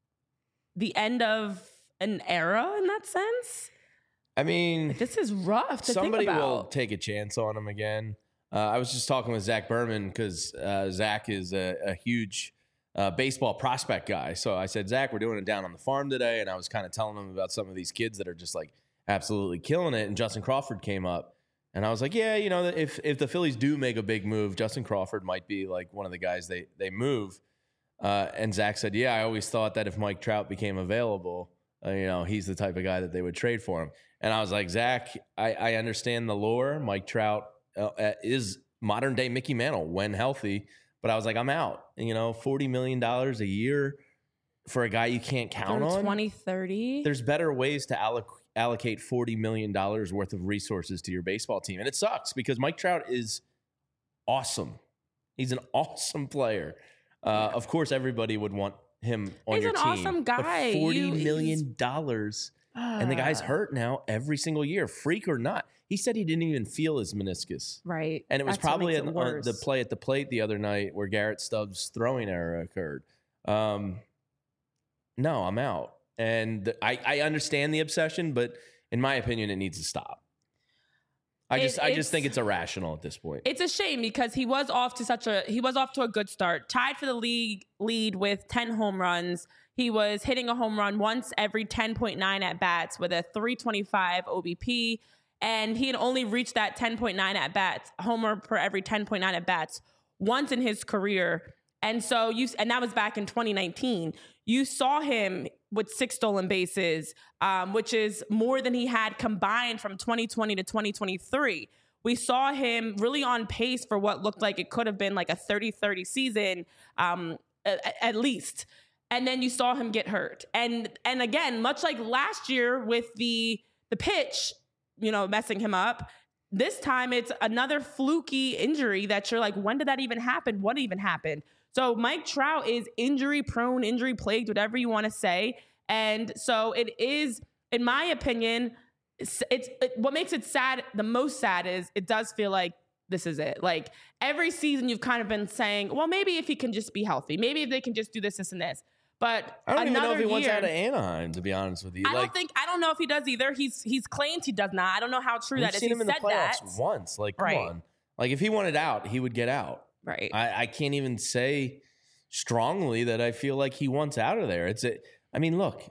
the end of an era in that sense? I mean, This is rough to somebody think about. will take a chance on him again. Uh, I was just talking with Zach Berman because uh, Zach is a, a huge uh, baseball prospect guy. So I said, Zach, we're doing it down on the farm today. And I was kind of telling him about some of these kids that are just like absolutely killing it. And Justin Crawford came up. And I was like, yeah, you know, if if the Phillies do make a big move, Justin Crawford might be like one of the guys they, they move. Uh, and Zach said, yeah, I always thought that if Mike Trout became available, uh, you know, he's the type of guy that they would trade for him. And I was like, Zach, I, I understand the lore. Mike Trout uh, is modern day Mickey Mantle when healthy. But I was like, I'm out. And, you know, forty million dollars a year for a guy you can't count Through on. twenty thirty There's better ways to alloc- allocate forty million dollars worth of resources to your baseball team. And it sucks because Mike Trout is awesome. He's an awesome player. Uh, of course, everybody would want him on He's your an team. awesome guy. But forty You- million dollars. And the guy's hurt now every single year, freak or not. He said he didn't even feel his meniscus. Right. And it was That's what probably makes it an, uh, the worse. play at the plate the other night where Garrett Stubbs' throwing error occurred. Um, no, I'm out. And I, I understand the obsession, but in my opinion, it needs to stop. I It- just I it's- just think it's irrational at this point. It's a shame because he was off to such a he was off to a good start. Tied for the league lead with ten home runs. He was hitting a home run once every ten point nine at bats with a three twenty-five O B P, and he had only reached that ten point nine at bats, homer per every ten point nine at bats once in his career. And so you and that was back in twenty nineteen. You saw him with six stolen bases, um, which is more than he had combined from twenty twenty to twenty twenty-three. We saw him really on pace for what looked like it could have been like a thirty thirty season, um, at, at least. And then you saw him get hurt. And and again, much like last year with the the pitch, you know, messing him up, this time it's another fluky injury that you're like, when did that even happen? What even happened? So Mike Trout is injury prone, injury plagued, whatever you want to say. And so it is, in my opinion, it's, it's it, what makes it sad, the most sad is it does feel like this is it. Like every season you've kind of been saying, well, maybe if he can just be healthy, maybe if they can just do this, this, and this. But I don't even know if he year, wants out of Anaheim, to be honest with you. I like, don't think I don't know if he does either. He's he's claimed he does not. I don't know how true we've that is. seen He him in the said playoffs that. once. Like, come Right. on. Like, if he wanted out, he would get out. Right. I, I can't even say strongly that I feel like he wants out of there. It's a, I mean, look,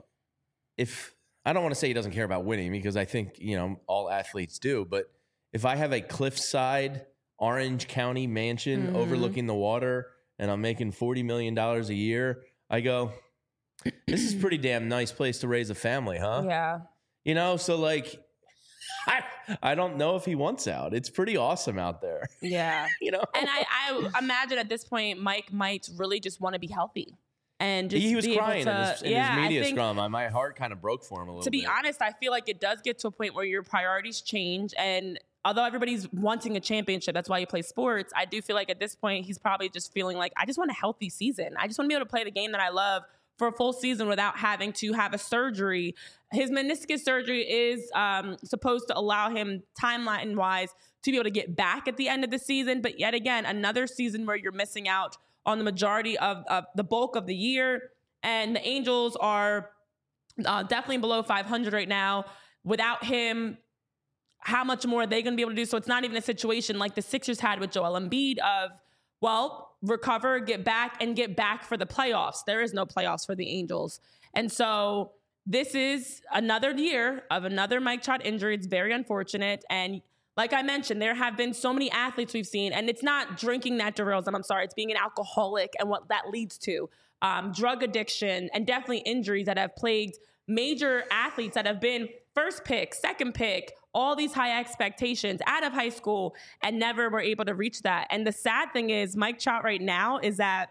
if I don't want to say he doesn't care about winning because I think, you know, all athletes do, but if I have a cliffside Orange County mansion Mhm. overlooking the water and I'm making forty million dollars a year, I go, this is a pretty damn nice place to raise a family, huh? Yeah. You know, so like, I, I don't know if he wants out. It's pretty awesome out there, Yeah. you know? And I, I imagine at this point, Mike might really just want to be healthy. And just he was be able crying to, in his, in yeah, his media I think, scrum. I, my heart kind of broke for him a little to be bit. honest, I feel like it does get to a point where your priorities change. And although everybody's wanting a championship, that's why you play sports, I do feel like at this point, he's probably just feeling like, I just want a healthy season. I just want to be able to play the game that I love for a full season without having to have a surgery. His meniscus surgery is um, supposed to allow him timeline-wise to be able to get back at the end of the season. But yet again, another season where you're missing out on the majority of, of the bulk of the year. And the Angels are uh, definitely below five hundred right now. Without him, how much more are they going to be able to do? So it's not even a situation like the Sixers had with Joel Embiid of, well, recover, get back, and get back for the playoffs. There is no playoffs for the Angels. And so this is another year of another Mike Trout injury. It's very unfortunate. And like I mentioned, there have been so many athletes we've seen, and it's not drinking that derails them. I'm sorry, it's being an alcoholic and what that leads to. Um, drug addiction and definitely injuries that have plagued major athletes that have been first pick, second pick, all these high expectations out of high school and never were able to reach that. And the sad thing is Mike Trout right now is that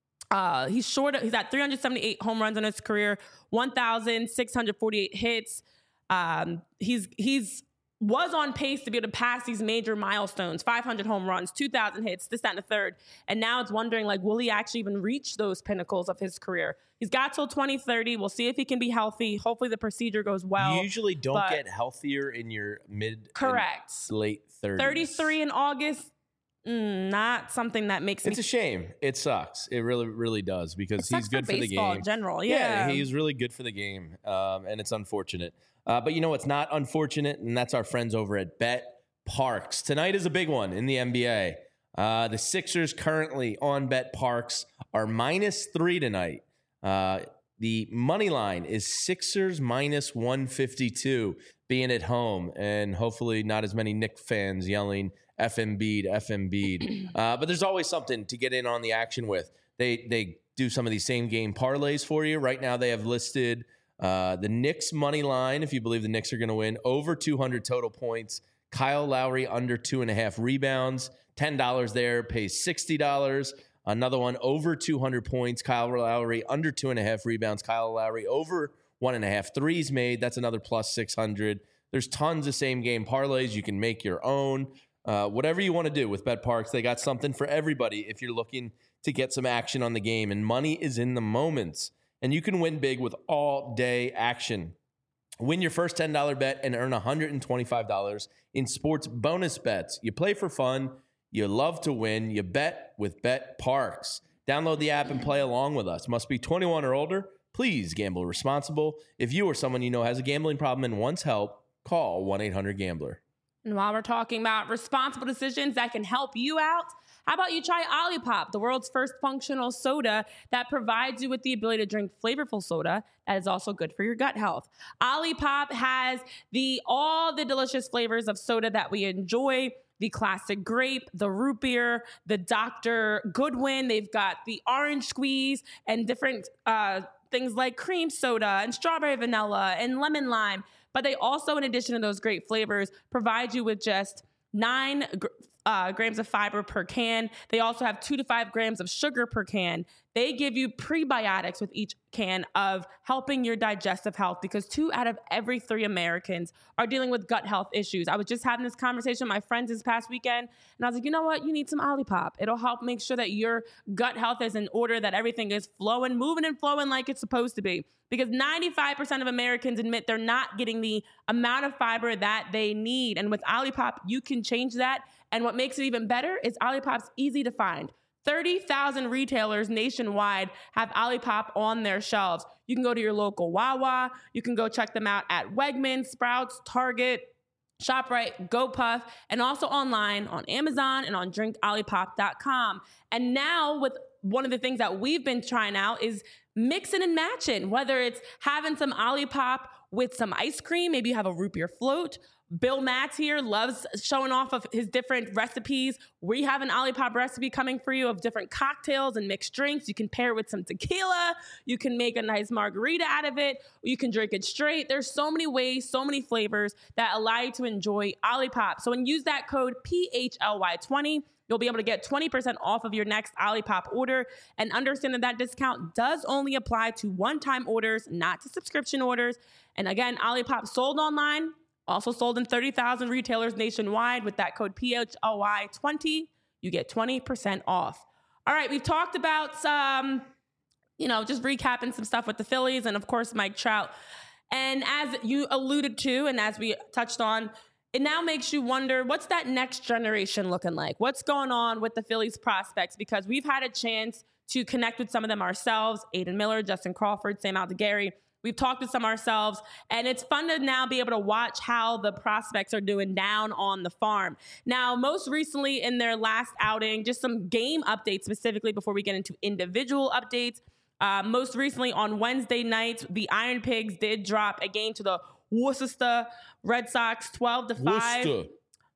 uh, he's short. He's at three hundred seventy-eight home runs in his career, one thousand six hundred forty-eight hits. Um, he's, he's, was on pace to be able to pass these major milestones, five hundred home runs, two thousand hits, this, that, and the third. And now it's wondering, like, will he actually even reach those pinnacles of his career? He's got till twenty thirty. We'll see if he can be healthy. Hopefully the procedure goes well. You usually don't get healthier in your mid correct. late thirties. thirty-three in August, mm, not something that makes It's me... a shame. It sucks. It really, really does because he's good for, for the baseball game. in general, yeah. Yeah, he's really good for the game, um, and it's unfortunate. Uh, but you know what's not unfortunate, and that's our friends over at Bet Parks. Tonight is a big one in the N B A. Uh, the Sixers currently on Bet Parks are minus three tonight. Uh, the money line is Sixers minus one fifty-two, being at home, and hopefully not as many Knicks fans yelling F Embiid, F Embiid. Uh, but there's always something to get in on the action with. They they do some of these same game parlays for you. Right now they have listed uh, the Knicks money line, if you believe the Knicks are going to win, over two hundred total points. Kyle Lowry under two and a half rebounds. ten dollars there pays sixty dollars. Another one over two hundred points. Kyle Lowry under two and a half rebounds. Kyle Lowry over one and a half threes made. That's another plus six hundred. There's tons of same game parlays. You can make your own. Uh, whatever you want to do with Bet Parks, they got something for everybody if you're looking to get some action on the game. And money is in the moments. And you can win big with all day action. Win your first ten dollars bet and earn one hundred twenty-five dollars in sports bonus bets. You play for fun. You love to win. You bet with Bet Parks. Download the app and play along with us. Must be twenty-one or older. Please gamble responsible. If you or someone you know has a gambling problem and wants help, call one eight hundred gambler. And while we're talking about responsible decisions that can help you out, how about you try Olipop, the world's first functional soda that provides you with the ability to drink flavorful soda that is also good for your gut health. Olipop has the all the delicious flavors of soda that we enjoy. The classic grape, the root beer, the Doctor Goodwin. They've got the orange squeeze and different uh, things like cream soda and strawberry vanilla and lemon lime. But they also, in addition to those great flavors, provide you with just nine uh, grams of fiber per can. They also have two to five grams of sugar per can. They give you prebiotics with each can of helping your digestive health because two out of every three Americans are dealing with gut health issues. I was just having this conversation with my friends this past weekend, and I was like, you know what? You need some Olipop. It'll help make sure that your gut health is in order, that everything is flowing, moving and flowing like it's supposed to be. Because ninety-five percent of Americans admit they're not getting the amount of fiber that they need. And with Olipop, you can change that. And what makes it even better is Olipop's easy to find. thirty thousand retailers nationwide have Olipop on their shelves. You can go to your local Wawa. You can go check them out at Wegmans, Sprouts, Target, ShopRite, GoPuff, and also online on Amazon and on drink olipop dot com. And now with one of the things that we've been trying out is mixing and matching, whether it's having some Olipop with some ice cream, maybe you have a root beer float. Bill Matz here loves showing off of his different recipes. We have an Olipop recipe coming for you of different cocktails and mixed drinks. You can pair it with some tequila. You can make a nice margarita out of it. You can drink it straight. There's so many ways, so many flavors that allow you to enjoy Olipop. So when you use that code P H L Y twenty, you'll be able to get twenty percent off of your next Olipop order. And understand that that discount does only apply to one-time orders, not to subscription orders. And again, Olipop sold online, also sold in thirty thousand retailers nationwide. With that code P H L Y twenty, you get twenty percent off. All right, we've talked about some, you know, just recapping some stuff with the Phillies and, of course, Mike Trout. And as you alluded to and as we touched on, it now makes you wonder, what's that next generation looking like? What's going on with the Phillies prospects? Because we've had a chance to connect with some of them ourselves, Aiden Miller, Justin Crawford, Sam Aldegheri. We've talked to some ourselves, and it's fun to now be able to watch how the prospects are doing down on the farm. Now, most recently in their last outing, just some game updates specifically before we get into individual updates. Uh, most recently on Wednesday night, the Iron Pigs did drop a game to the Worcester Red Sox, twelve to five. Worcester.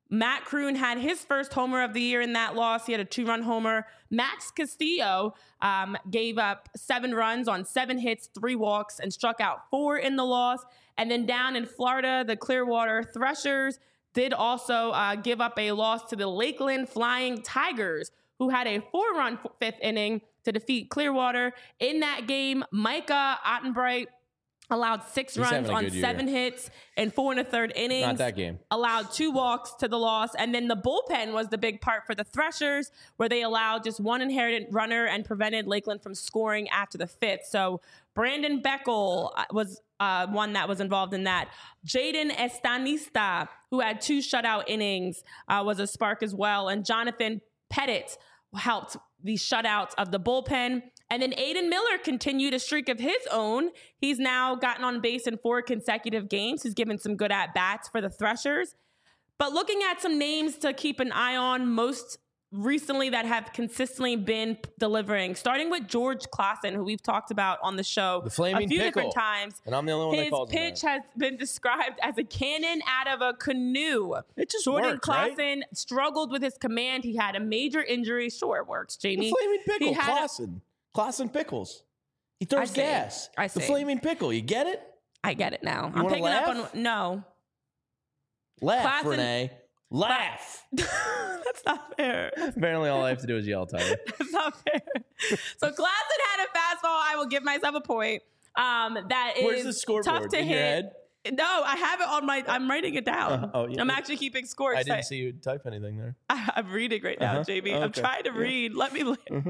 Matt Kroon had his first homer of the year in that loss. He had a two-run homer. Max Castillo um, gave up seven runs on seven hits, three walks, and struck out four in the loss. And then down in Florida, the Clearwater Threshers did also uh, give up a loss to the Lakeland Flying Tigers, who had a four-run fifth inning to defeat Clearwater. In that game, Micah Ottenbright allowed six He's runs on year. seven hits and four and a third innings. Not that game. Allowed two walks to the loss. And then the bullpen was the big part for the Threshers, where they allowed just one inherited runner and prevented Lakeland from scoring after the fifth. So Brandon Beckel was uh, one that was involved in that. Jaden Estanista, who had two shutout innings, uh, was a spark as well. And Jonathan Pettit helped the shutouts of the bullpen. And then Aiden Miller continued a streak of his own. He's now gotten on base in four consecutive games. He's given some good at-bats for the Threshers. But looking at some names to keep an eye on most recently that have consistently been delivering, starting with George Klassen, who we've talked about on the show The flaming a few pickle. different times. And I'm the only one His that calls him pitch that. has been described as a cannon out of a canoe. It just Jordan worked, right? Klassen struggled with his command. He had a major injury. Sure, it works, Jamie. The flaming pickle, He had a- Klassen. Klassen Pickles. He throws I see. gas. I The see. flaming pickle. You get it? I get it now. I'm wanna picking up laugh? on no. Laugh, Klassen- Renee. Laugh. That's not fair. Apparently, all I have to do is yell, Tyler. That's not fair. So Klassen had a fastball. I will give myself a point. Um, that is Where's the scoreboard? tough to In hit. your head? No, I have it on my. I'm writing it down. Uh, oh, yeah. I'm actually keeping score. I didn't see you type anything there. I, I'm reading right now, Uh-huh. Jamie. Oh, I'm okay. trying to Yeah. read. Let me. Li- Mm-hmm.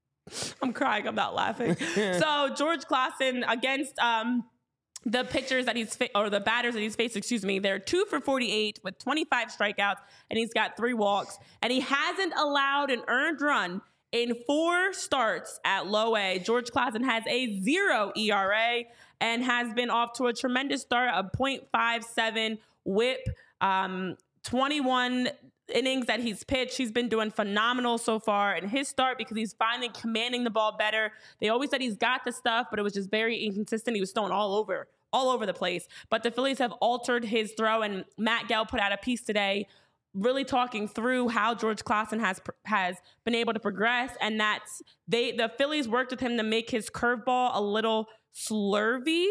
I'm crying. I'm not laughing. So George Klassen against um, the pitchers that he's fa- or the batters that he's faced. Excuse me. They're two for forty-eight with twenty-five strikeouts, and he's got three walks, and he hasn't allowed an earned run in four starts at low A. George Klassen has a zero E R A and has been off to a tremendous start, a point five seven whip, um, twenty-one innings that he's pitched. He's been doing phenomenal so far in his start because he's finally commanding the ball better. They always said he's got the stuff, but it was just very inconsistent. He was throwing all over, all over the place. But the Phillies have altered his throw, and Matt Gell put out a piece today really talking through how George Klassen has has been able to progress, and that's they the Phillies worked with him to make his curveball a little slurvy.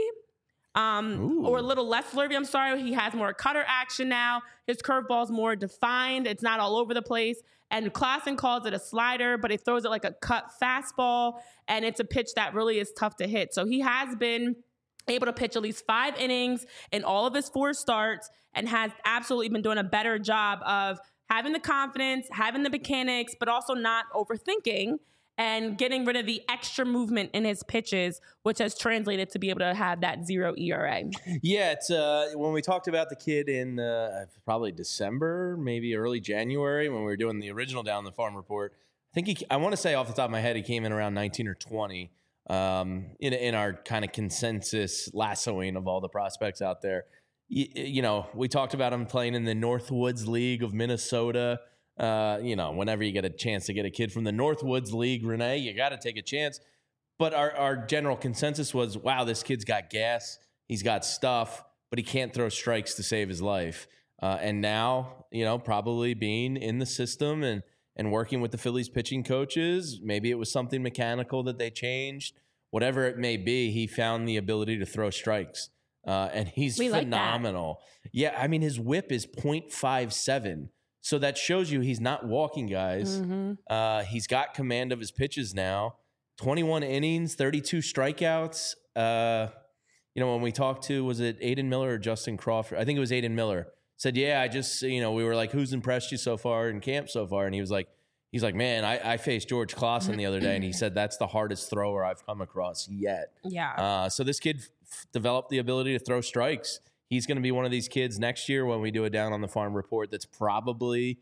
Um, Ooh. or a little less slurvy. I'm sorry. He has more cutter action now. His curveball is more defined. It's not all over the place. And Klassen calls it a slider, but he throws it like a cut fastball. And it's a pitch that really is tough to hit. So he has been able to pitch at least five innings in all of his four starts and has absolutely been doing a better job of having the confidence, having the mechanics, but also not overthinking and getting rid of the extra movement in his pitches, which has translated to be able to have that zero E R A. Yeah, it's uh, when we talked about the kid in uh, probably December, maybe early January, when we were doing the original Down the Farm report. I think he, I want to say off the top of my head, he came in around nineteen or twenty um, in in our kind of consensus lassoing of all the prospects out there. You, you know, we talked about him playing in the Northwoods League of Minnesota. Uh, you know, whenever you get a chance to get a kid from the Northwoods League, Renee, you got to take a chance. But our, our general consensus was, wow, this kid's got gas. He's got stuff, but he can't throw strikes to save his life. Uh, and now, you know, probably being in the system and, and working with the Phillies pitching coaches, maybe it was something mechanical that they changed. Whatever it may be, he found the ability to throw strikes. Uh, and he's We like that. phenomenal. Yeah, I mean, his whip is point five seven. So that shows you he's not walking guys. Mm-hmm. Uh, he's got command of his pitches now. twenty-one innings, thirty-two strikeouts. Uh, you know, when we talked to, was it Aiden Miller or Justin Crawford? I think it was Aiden Miller. Said, yeah, I just, you know, we were like, who's impressed you so far in camp so far? And he was like, he's like, man, I, I faced George Klassen the other day, and he said that's the hardest thrower I've come across yet. Yeah. Uh, so this kid f- developed the ability to throw strikes. He's going to be one of these kids next year when we do a Down on the Farm report that's probably,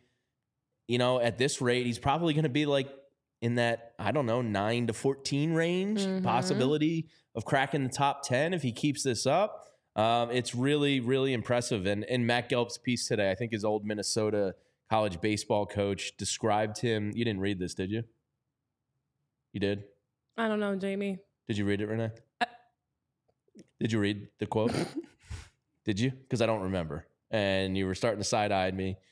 you know, at this rate, he's probably going to be like in that, I don't know, nine to fourteen range, Mhm. possibility of cracking the top ten if he keeps this up. Um, it's really, really impressive. And, and Matt Gelb's piece today, I think his old Minnesota college baseball coach described him. You didn't read this, did you? You did? I don't know, Jamie. Did you read it, Renee? Uh, Did you read the quote? Did you? Because I don't remember. And you were starting to side-eye me.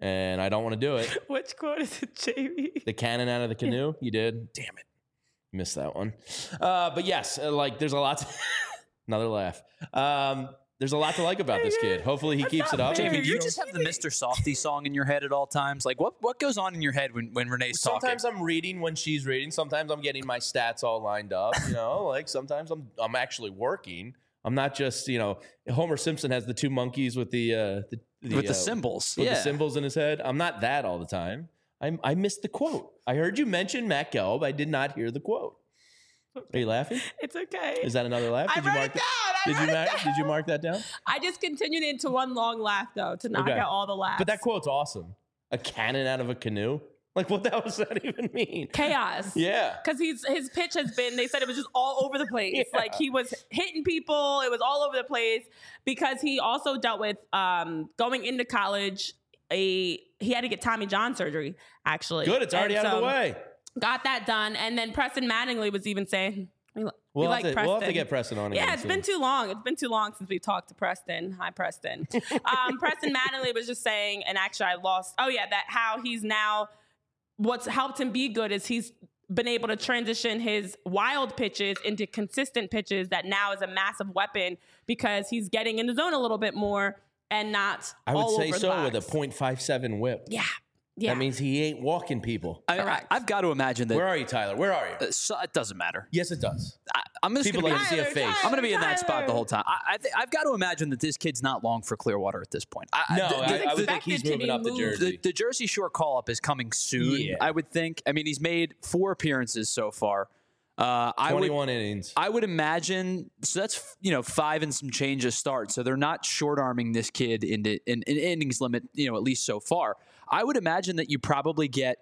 and I don't want to do it. Which quote is it, Jamie? The cannon out of the canoe. You did. Damn it, missed that one. Uh, but yes, uh, like there's a lot. To Another laugh. Um, There's a lot to like about this kid. Hopefully he That's keeps not it up. fair. Jamie, do you You're just have the Mister Softy song in your head at all times? Like, what what goes on in your head when, when Renee's Sometimes talking? I'm reading when she's reading. Sometimes I'm getting my stats all lined up. You know, like sometimes I'm I'm actually working. I'm not just, you know, Homer Simpson has the two monkeys with the uh, the, the With the uh, symbols. with yeah. the symbols in his head. I'm not that all the time. I I missed the quote. I heard you mention Matt Gelb. I did not hear the quote. Are you laughing? It's okay. Is that another laugh? I Did you wrote mark it down. I Did you wrote it mark, down. Did you mark that down? I just continued into one long laugh though to knock Okay. out all the laughs. But that quote's awesome. A cannon out of a canoe. Like, what the hell does that even mean? chaos. Yeah. Because he's his pitch has been, they said it was just all over the place. Yeah. Like he was hitting people, it was all over the place. Because he also dealt with um, going into college. A he had to get Tommy John surgery. Actually, Good. It's already And out of the so way. Got that done, and then Preston Mattingly was even saying, "We, we We'll, like have to, Preston." we'll have to get Preston on again. Yeah, it's soon. been too long. It's been too long since we've talked to Preston. Hi, Preston. um, Preston Mattingly was just saying, and actually I lost, oh yeah, that how he's now, what's helped him be good is he's been able to transition his wild pitches into consistent pitches that now is a massive weapon because he's getting in the zone a little bit more and not I would all say over so the with a box. point five seven whip. Yeah. Yeah. That means he ain't walking people. I, Correct. I've got to imagine that. Where are you, Tyler? Where are you? uh, so, it doesn't matter. Yes, it does. I, I'm just People going like to to be. see a face. I'm going to be in that spot Tyler. the whole time. I, I th- I've got to imagine that this kid's not long for Clearwater at this point. I, No, the, I, the- I would think expected he's to moving be up to moved. Jersey. the, the Jersey Shore call up is coming soon. Yeah. I would think. I mean, he's made four appearances so far. Uh, I would, twenty-one innings. I would imagine. So that's you know five and some change of start. So they're not short arming this kid into an in, in innings limit. You know, at least so far. I would imagine that you probably get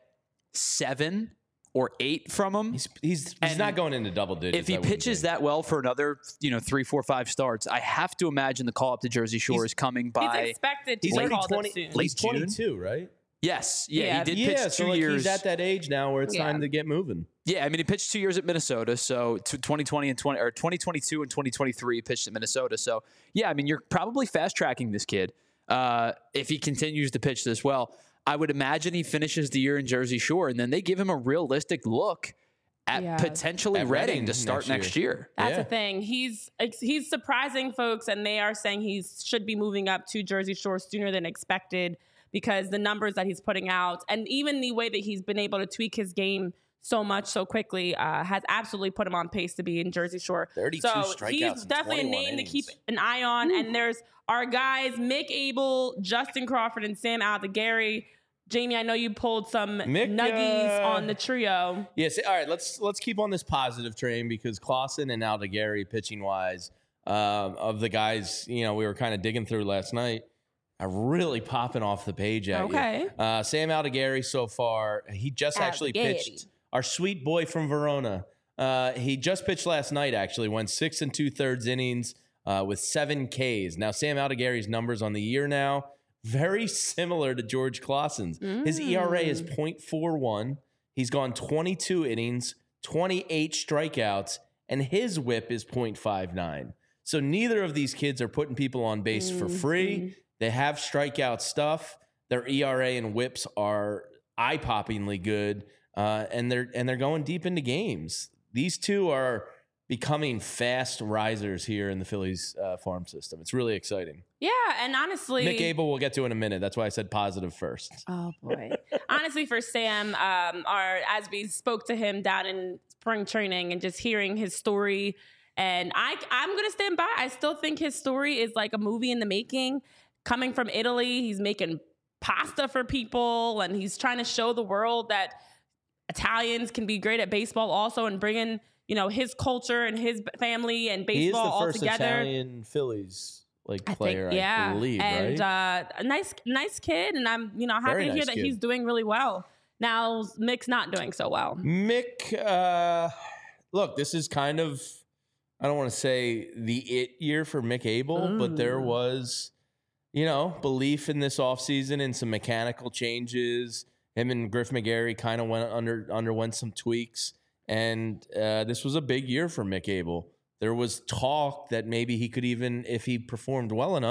seven or eight from him. He's he's, he's And not going into double digits. If he I wouldn't pitches think. that well for another, you know, three, four, five starts, I have to imagine the call up to Jersey Shore He's- is coming He's by. expected to he's be already called twenty. up soon. Late He's June? twenty-two, right? Yes, yeah, Yeah. he did Yeah, pitch so two like years. he's at that age now where it's Yeah. time to get moving. Yeah, I mean, he pitched two years at Minnesota, so to twenty twenty and twenty or twenty twenty-two and twenty twenty-three, he pitched at Minnesota. So yeah, I mean, you're probably fast tracking this kid uh, if he continues to pitch this well. I would imagine he finishes the year in Jersey Shore, and then they give him a realistic look at Yeah. potentially At Reading Reading to start next next year. That's Yeah. the thing. He's he's surprising folks, and they are saying he should be moving up to Jersey Shore sooner than expected because the numbers that he's putting out, and even the way that he's been able to tweak his game so much so quickly, uh, has absolutely put him on pace to be in Jersey Shore. thirty-two so strikeouts he's in definitely a twenty-one name innings. to keep an eye on. And there's our guys, Mick Abel, Justin Crawford, and Sam Aldegari. Jamie, I know you pulled some Mick, nuggies uh, on the trio. Yes. All right. Let's let's keep on this positive train because Clausen and Aldegari, pitching wise, um, of the guys, you know, we were kind of digging through last night, are really popping off the page at Okay. you. Uh, Sam Aldegari so far, he just actually Aldegari. pitched. Our sweet boy from Verona. Uh, he just pitched last night. Actually, went six and two thirds innings uh, with seven Ks. Now Sam Aldegari's numbers on the year now very similar to George Clausen's. His E R A is point four one. He's gone twenty-two innings, twenty-eight strikeouts, and his whip is point five nine. So neither of these kids are putting people on base for free. They have strikeout stuff. Their E R A and whips are eye-poppingly good, uh, and they're and they're going deep into games. These two are becoming fast risers here in the Phillies uh, farm system. It's really exciting. Yeah, and honestly, Mick Abel we'll get to in a minute. That's why I said positive first. Oh boy! Honestly, for Sam, um, our as we spoke to him down in spring training and just hearing his story, and I, I'm gonna stand by. I still think his story is like a movie in the making. Coming from Italy, he's making pasta for people, and he's trying to show the world that Italians can be great at baseball also, and bringing you know his culture and his family and He is baseball the all first together. Italian Phillies like I player, think, yeah, I believe, and right? uh, a nice, nice kid, and I'm, you know, happy Very to hear nice that kid. he's doing really well. Now Mick's not doing so well. Mick, uh, look, this is kind of, I don't want to say the it year for Mick Abel, but there was, you know, belief in this offseason and some mechanical changes. Him and Griff McGarry kind of went under underwent some tweaks, and uh, this was a big year for Mick Abel. There was talk that maybe he could even, if he performed well enough,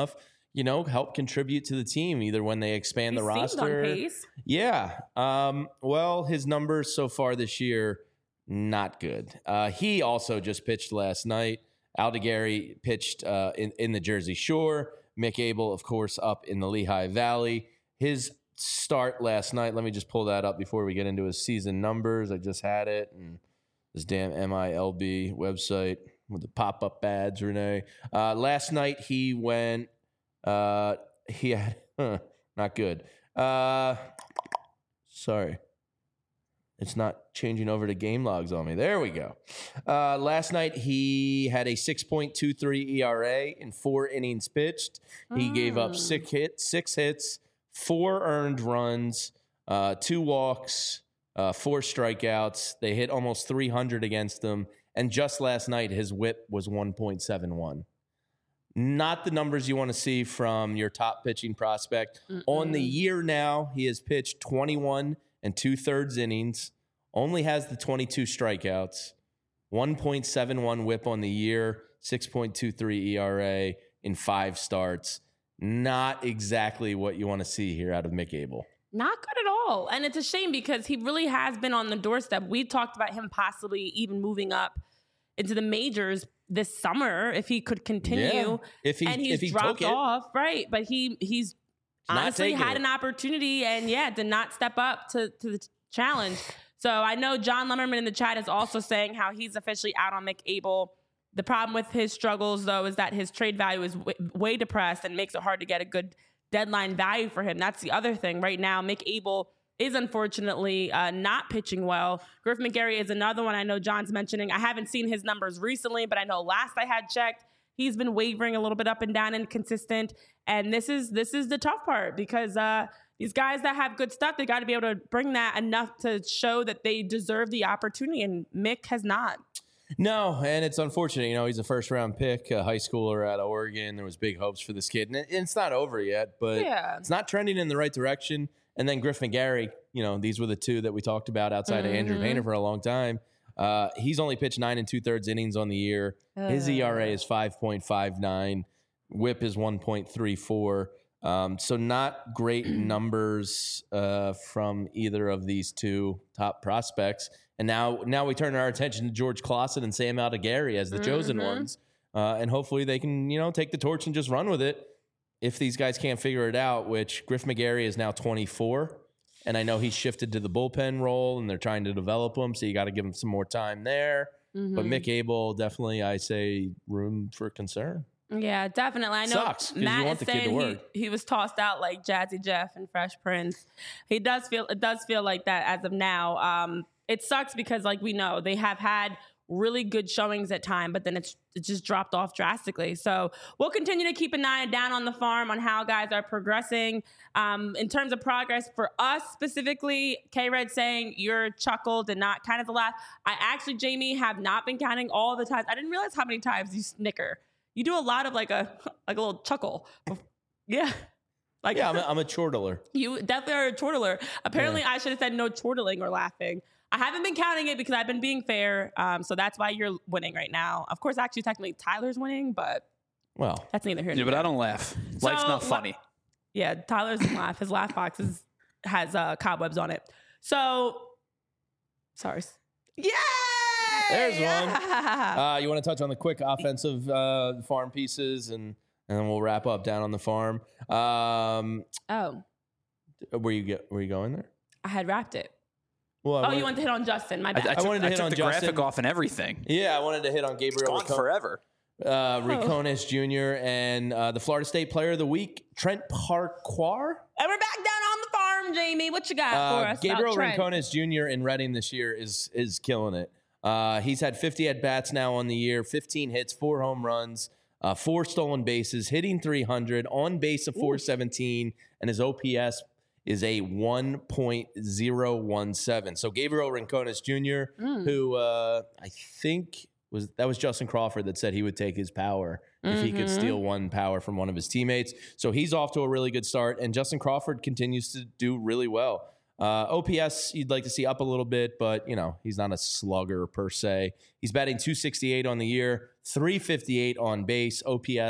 you know, help contribute to the team either when they expand He the seemed roster. on pace. Yeah. Um, well, his numbers so far this year, not good. Uh, he also just pitched last night. Aldegari pitched uh, in, in the Jersey Shore. Mick Abel, of course, up in the Lehigh Valley. His start last night, let me just pull that up before we get into his season numbers. I just had it. And this damn M I L B website with the pop-up ads, Renee. Uh, last night he went, uh, he had, huh, not good. Uh, sorry. It's not changing over to game logs on me. There we go. Uh, last night, he had a six point two three E R A in four innings pitched. He mm. gave up six hits, six hits, four earned runs, uh, two walks, uh, four strikeouts. They hit almost three hundred against him. And just last night, his whip was one point seven one. Not the numbers you want to see from your top pitching prospect. Mm-mm. On the year now, he has pitched twenty-one and two-thirds innings, only has the twenty-two strikeouts, one point seven one whip on the year, six point two three E R A in five starts. Not exactly what you want to see here out of Mick Abel. Not good at all. And it's a shame because he really has been on the doorstep. We talked about him possibly even moving up into the majors this summer if he could continue. Yeah. If he, and he's if he dropped took it. off, right? But he he's honestly had it. an opportunity and yeah, did not step up to, to the challenge. So I know John Lemmerman in the chat is also saying how he's officially out on Mick Abel. The problem with his struggles, though, is that his trade value is w- way depressed and makes it hard to get a good deadline value for him. That's the other thing. Right now, Mick Abel is unfortunately uh, not pitching well. Griff McGarry is another one I know John's mentioning. I haven't seen his numbers recently, but I know last I had checked, he's been wavering a little bit up and down, inconsistent. And this is this is the tough part because uh, these guys that have good stuff, they got to be able to bring that enough to show that they deserve the opportunity. And Mick has not. No, and it's unfortunate. You know, he's a first-round pick, a high schooler out of Oregon. There was big hopes for this kid. And it's not over yet, but yeah. It's not trending in the right direction. And then Griff McGarry, you know, these were the two that we talked about outside mm-hmm. of Andrew Painter for a long time. Uh, he's only pitched nine and two-thirds innings on the year. Uh. His E R A is five point five nine. Whip is one point three four. Um, so not great numbers uh, from either of these two top prospects. And now now we turn our attention to George Clausen and Sam Aldegari as the mm-hmm. chosen ones. Uh, and hopefully they can, you know, take the torch and just run with it if these guys can't figure it out, which Griff McGarry is now twenty-four. And I know he's shifted to the bullpen role and they're trying to develop him. So you got to give him some more time there. Mm-hmm. But Mick Abel, definitely, I say, room for concern. Yeah, definitely. I know Sucks, Matt you want is the kid saying to work. He, he was tossed out like Jazzy Jeff and Fresh Prince. He does feel it does feel like that as of now. Um, it sucks because, like we know, they have had really good showings at time, but then it's it just dropped off drastically. So we'll continue to keep an eye down on the farm on how guys are progressing. Um, in terms of progress for us specifically, K-Red saying your chuckle did not kind of the laugh. I actually, Jamie, have not been counting all the times. I didn't realize how many times you snicker. You do a lot of like a like a little chuckle. Yeah. Like, yeah, I'm a, I'm a chortler. You definitely are a chortler. Apparently, yeah. I should have said no chortling or laughing. I haven't been counting it because I've been being fair. Um, so that's why you're winning right now. Of course, actually, technically, Tyler's winning, but well, that's neither here nor there. there. Yeah, but I don't laugh. So, Life's not funny. Yeah, Tyler's laugh. His laugh box is, has uh, cobwebs on it. So, sorry. Yeah. There's one. Uh, you want to touch on the quick offensive uh, farm pieces, and and then we'll wrap up down on the farm. Um, oh, where you get? Where you going there? I had wrapped it. Well, I oh, wanted, you wanted to hit on Justin? My bad. I, I, took, I wanted to I hit took on the Justin. graphic off and everything. Yeah, I wanted to hit on Gabriel. It's gone Rico- forever. Uh, Riconis oh. Junior and uh, the Florida State Player of the Week, Trent Parquar. And we're back down on the farm, Jamie. What you got uh, for us? Gabriel Riconis Junior in Reading this year is is killing it. Uh, he's had fifty at-bats now on the year, fifteen hits, four home runs, uh, four stolen bases, hitting three hundred, on base of four seventeen, and his O P S is a one point oh one seven. So Gabriel Rincones Junior, mm. who uh, I think was that was Justin Crawford that said he would take his power mm-hmm. if he could steal one power from one of his teammates. So he's off to a really good start, and Justin Crawford continues to do really well. Uh, O P S you'd like to see up a little bit, but you know he's not a slugger per se. He's batting two sixty-eight on the year, three fifty-eight on base. O P S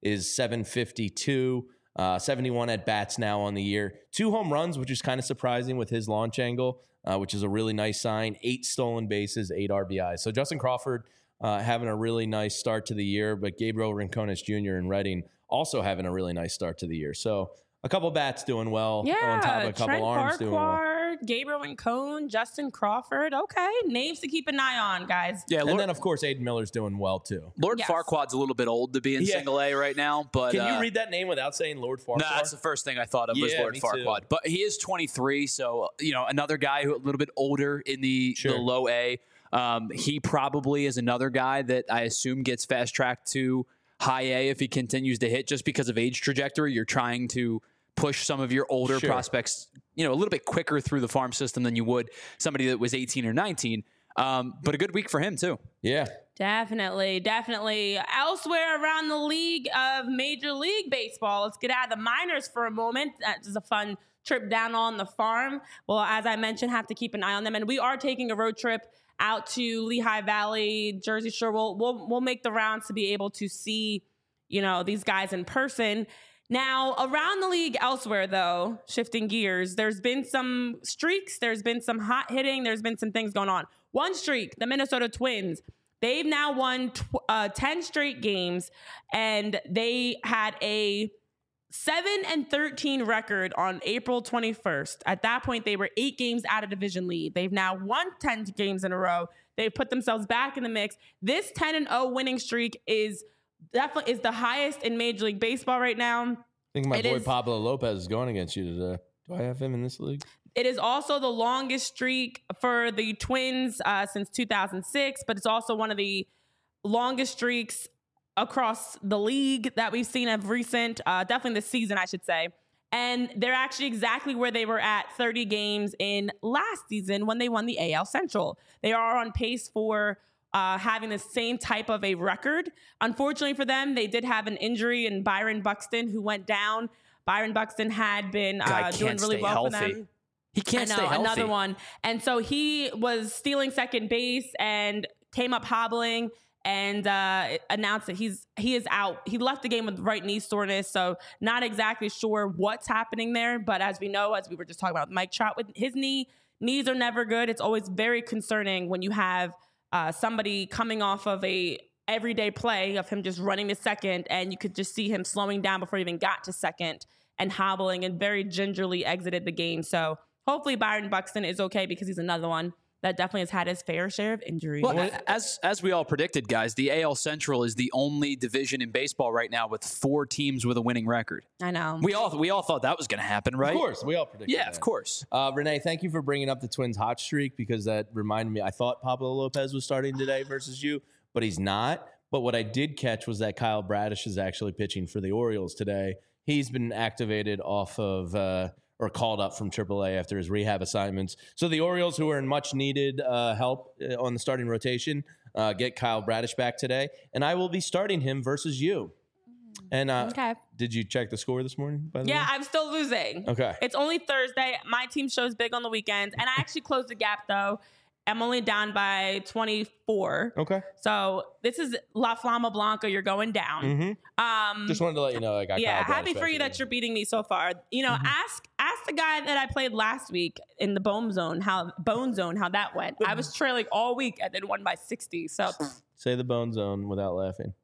is seven fifty-two. Uh, seventy-one at bats now on the year. Two home runs, which is kind of surprising with his launch angle, uh, which is a really nice sign. Eight stolen bases, eight R B Is. So Justin Crawford uh, having a really nice start to the year, but Gabriel Rincones Junior in Reading also having a really nice start to the year. So a couple bats doing well Yeah, on top of a couple Trent arms doing well. Farquhar, Gabriel Rincon, Justin Crawford. Okay, names to keep an eye on, guys. Yeah, And Lord, then, of course, Aiden Miller's doing well, too. Lord Yes. Farquaad's a little bit old to be in Yeah. single A right now, but Can uh, you read that name without saying Lord No, Farquhar? that's the first thing I thought of was Yeah, Lord me too. Farquaad. But he is twenty-three, so you know another guy who a little bit older in the, Sure. the low A. Um, he probably is another guy that I assume gets fast tracked to high A if he continues to hit, just because of age trajectory. You're trying to push some of your older Sure. prospects, you know, a little bit quicker through the farm system than you would somebody that was eighteen or nineteen. Um, but a good week for him too. Yeah. Definitely, definitely. Elsewhere around the league of Major League Baseball, let's get out of the minors for a moment. That is a fun trip down on the farm. Well, as I mentioned, have to keep an eye on them. And we are taking a road trip out to Lehigh Valley, Jersey Shore. We'll, we'll, we'll make the rounds to be able to see, you know, these guys in person. Now, around the league elsewhere, though, shifting gears, there's been some streaks. There's been some hot hitting. There's been some things going on. One streak, the Minnesota Twins. They've now won tw- uh, ten straight games, and they had a seven and thirteen record on April twenty-first. At that point, they were eight games out of division lead. They've now won ten games in a row. They've put themselves back in the mix. This ten and oh winning streak is definitely is the highest in Major League Baseball right now. I think my It boy is- Pablo Lopez is going against you today. Do I have him in this league? It is also the longest streak for the Twins uh, since two thousand six, but it's also one of the longest streaks across the league that we've seen of recent, uh, definitely this season, I should say. And they're actually exactly where they were at thirty games in last season when they won the A L Central. They are on pace for uh, having the same type of a record. Unfortunately for them, they did have an injury in Byron Buxton, who went down. Byron Buxton had been Guy uh, doing can't really stay well healthy. for them. He can't I know, stay healthy. another one. And so he was stealing second base and came up hobbling and uh, announced that he's he is out. He left the game with right knee soreness, so not exactly sure what's happening there. But as we know, as we were just talking about Mike Trout with his knee, knees are never good. It's always very concerning when you have uh, somebody coming off of a everyday play of him just running to second, and you could just see him slowing down before he even got to second and hobbling and very gingerly exited the game. So hopefully Byron Buxton is okay, because he's another one that definitely has had his fair share of injuries. Well, as as we all predicted, guys, the A L Central is the only division in baseball right now with four teams with a winning record. I know. We all we all thought that was going to happen, right? Of course. We all predicted Yeah, that. of course. Uh, Renee, thank you for bringing up the Twins hot streak, because that reminded me. I thought Pablo Lopez was starting today versus you, but he's not. But what I did catch was that Kyle Bradish is actually pitching for the Orioles today. He's been activated off of uh, or called up from triple A after his rehab assignments. So the Orioles, who are in much needed uh, help uh, on the starting rotation, uh, get Kyle Bradish back today. And I will be starting him versus you. And uh, Okay. did you check the score this morning, by the Yeah, way? I'm still losing. Okay. It's only Thursday. My team shows big on the weekends, and I actually closed the gap, though. I'm only down by twenty-four. Okay. So this is La Flama Blanca. You're going down. Mm-hmm. Um, Just wanted to let you know I got yeah, Kyle Bradish happy back for you today. that you're beating me so far. You know, ask ask the guy that I played last week in the Bone Zone how Bone Zone how that went. I was trailing all week and then won by sixty. So Say the Bone Zone without laughing.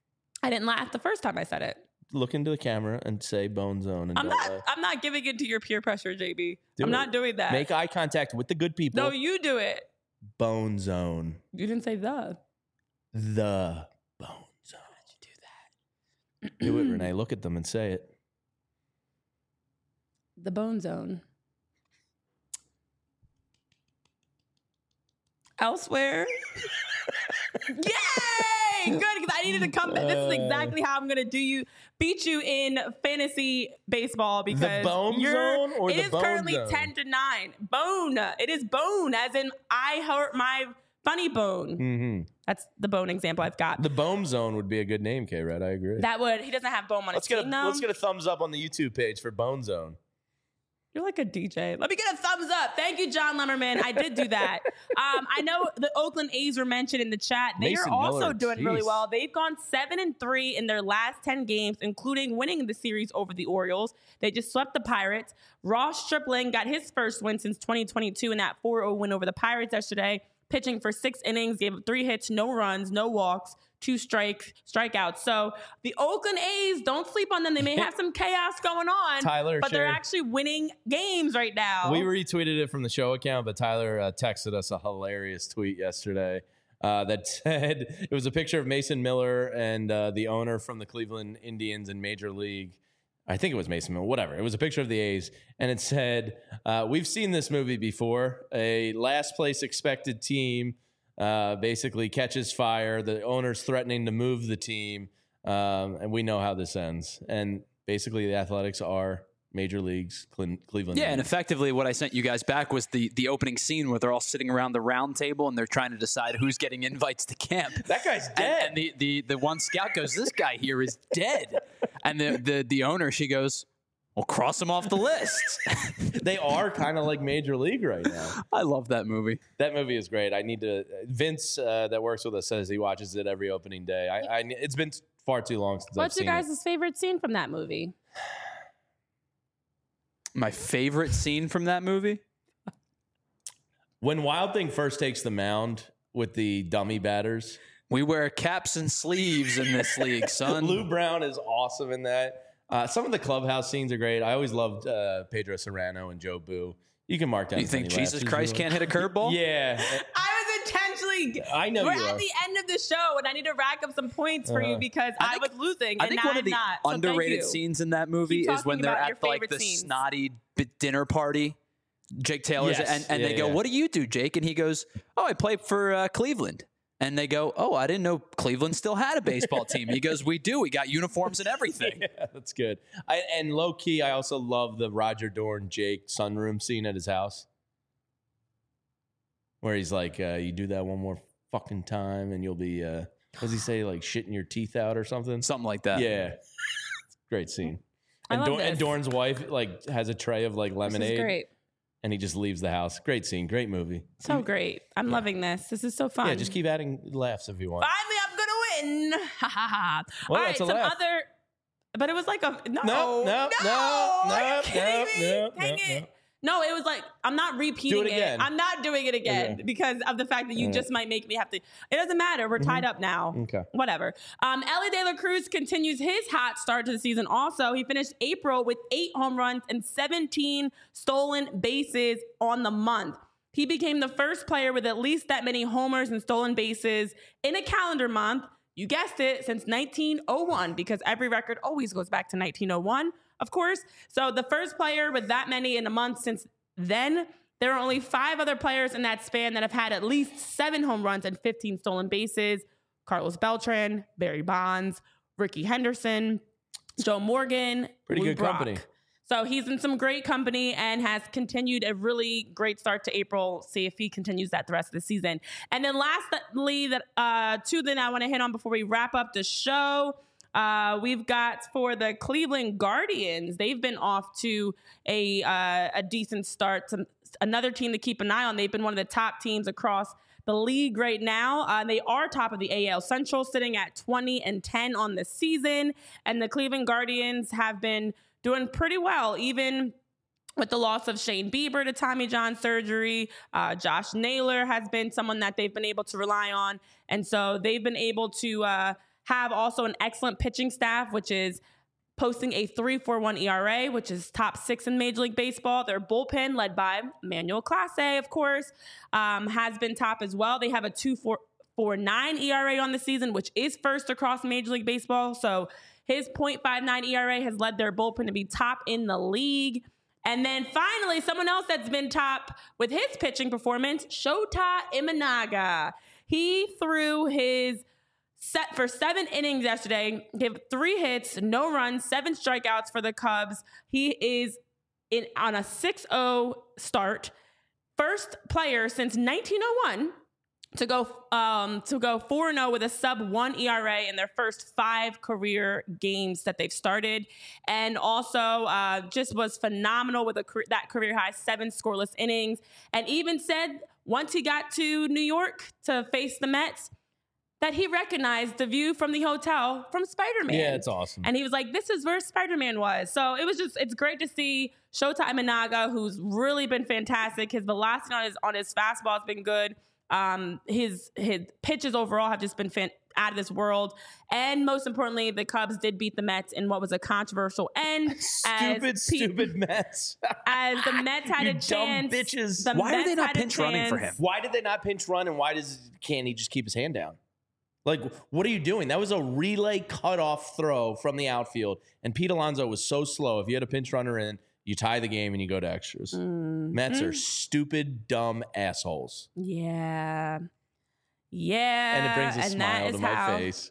I didn't laugh the first time I said it. Look into the camera and say Bone Zone. And I'm don't not. laugh. I'm not giving in to your peer pressure, J B. Do I'm it. not doing that. Make eye contact with the good people. no, you do it. Bone Zone. You didn't say the. The Bone Zone. How'd you do that? Do it, Renee. Look at them and say it. The Bone Zone. Elsewhere. Yay! Good, because I needed to come back. This is exactly how I'm gonna do you, beat you in fantasy baseball, because Bone you're, Zone or it the is Bone currently Zone? ten to nine. Bone. It is bone, as in I hurt my funny bone. Mm-hmm. That's the bone example I've got. The Bone Zone would be a good name, K-Red. I agree. That would he doesn't have bone on let's his get a team though. let's get a thumbs up on the YouTube page for Bone Zone. You're like a D J. Let me get a thumbs up. Thank you, John Lemmerman. I did do that. Um, I know the Oakland A's were mentioned in the chat. They Mason are also Miller, doing geez. really well. They've gone seven and three in their last ten games, including winning the series over the Orioles. They just swept the Pirates. Ross Stripling got his first win since twenty twenty-two in that four oh win over the Pirates yesterday, pitching for six innings, gave up three hits, no runs, no walks, two strike strikeouts. So the Oakland A's, don't sleep on them. They may have some chaos going on, Tyler but they're shared- actually winning games right now. We retweeted it from the show account, but Tyler uh, texted us a hilarious tweet yesterday uh, that said it was a picture of Mason Miller and uh, the owner from the Cleveland Indians in Major League. I think it was Mason Miller, whatever. It was a picture of the A's, and it said, uh, we've seen this movie before. A last place expected team uh, basically catches fire. The owner's threatening to move the team, um, and we know how this ends. And basically the Athletics are Major League's Cle- Cleveland. Yeah, and Indians. effectively what I sent you guys back was the the opening scene where they're all sitting around the round table and they're trying to decide who's getting invites to camp. That guy's And, dead. and the, the the one scout goes, "This guy here is dead." And the the the owner, she goes, "Well, cross him off the list." They are kind of like Major League right now. I love that movie. That movie is great. I need to. Vince, uh, that works with us, says he watches it every opening day. I, I it's been far too long since What's I've your seen guys' favorite scene from that movie? My favorite scene from that movie? it. When Wild Thing first takes the mound with the dummy batters, We wear caps and sleeves in this league, son. Lou Brown is awesome in that. Uh, some of the clubhouse scenes are great. I always loved uh, Pedro Serrano and Joe Boo. You can mark down. You as think many Jesus laughs as Christ you can't hit a curveball? Yeah, I was intentionally. I know We're you at are. the end of the show, and I need to rack up some points for you Uh-huh. because I I, think- was losing, I and think now one I'm of the not. So thank underrated you. scenes in that movie Keep is when talking they're about at your like the favorite scenes. snotty b- dinner party. Jake Taylor's Yes. and, and Yeah, they go, yeah. "What do you do, Jake?" And he goes, "Oh, I play for uh, Cleveland." And they go, "Oh, I didn't know Cleveland still had a baseball team." He goes, "We do. We got uniforms and everything." Yeah, that's good. I, and low key, I also love the Roger Dorn Jake sunroom scene at his house, where he's like, uh, "You do that one more fucking time, and you'll be." Uh, what does he say? Like shitting your teeth out or something? Something like that. Yeah, great scene. I And, love Dorn, and this. Dorn's wife like has a tray of like This lemonade, is great. and he just leaves the house. Great scene, great movie. So great. I'm loving this. This is so fun. Yeah, just keep adding laughs if you want. Finally, I'm gonna win. Ha ha ha. Well, All right, that's a some laugh. other. But it was like a no, No, no, no, Are you no, kidding no, me? no, Dang no, it. no. No, it was like I'm not repeating Do it again. I'm not doing it again Okay. because of the fact that you All right. just might make me have to. It doesn't matter. We're tied up now. Okay. Whatever. Um, Ellie De La Cruz continues his hot start to the season. Also, he finished April with eight home runs and seventeen stolen bases on the month. He became the first player with at least that many homers and stolen bases in a calendar month. You guessed it, since nineteen oh one, because every record always goes back to nineteen oh one, of course. So the first player with that many in a month since then. There are only five other players in that span that have had at least seven home runs and fifteen stolen bases. Carlos Beltran, Barry Bonds, Ricky Henderson, Joe Morgan, Pretty Lou good Brock. company. So he's in some great company and has continued a really great start to April. See if he continues that the rest of the season. And then lastly, that uh, two that I want to hit on before we wrap up the show. Uh, we've got for the Cleveland Guardians. They've been off to a uh, a decent start. Some, another team to keep an eye on. They've been one of the top teams across the league right now. Uh, they are top of the A L Central, sitting at twenty and ten on the season. And the Cleveland Guardians have been doing pretty well, even with the loss of Shane Bieber to Tommy John surgery. Uh, Josh Naylor has been someone that they've been able to rely on. And so they've been able to uh, have also an excellent pitching staff, which is posting a three point four one E R A, which is top six in Major League Baseball. Their bullpen, led by Manuel Clase, of course, um, has been top as well. They have a two point four nine E R A on the season, which is first across Major League Baseball. So his point five nine E R A has led their bullpen to be top in the league. And then finally, someone else that's been top with his pitching performance, Shota Imanaga. He threw his set for seven innings yesterday, gave three hits, no runs, seven strikeouts for the Cubs. He is in on a six oh start. First player since nineteen oh one to go um, to go four and oh with a sub one E R A in their first five career games that they've started. And also uh, just was phenomenal with a, that career high seven scoreless innings. And even said once he got to New York to face the Mets, that he recognized the view from the hotel from Spider-Man. Yeah, it's awesome. And he was like, this is where Spider-Man was. So it was just, it's great to see Shota Imanaga, who's really been fantastic. His velocity on his, on his fastball has been good. Um, his his pitches overall have just been fan- out of this world. And most importantly, the Cubs did beat the Mets in what was a controversial end. Stupid, as stupid Mets. As the Mets had You a dumb chance. bitches. the Why are Mets they not had a pinch running for chance. him? Why did they not pinch run, and why does can't he just keep his hand down? Like, what are you doing? That was a relay cutoff throw from the outfield, and Pete Alonso was so slow. If you had a pinch runner in, you tie the game and you go to extras. Mm. Mets are stupid, dumb assholes. Yeah. Yeah. And it brings a and smile that to is my how, face.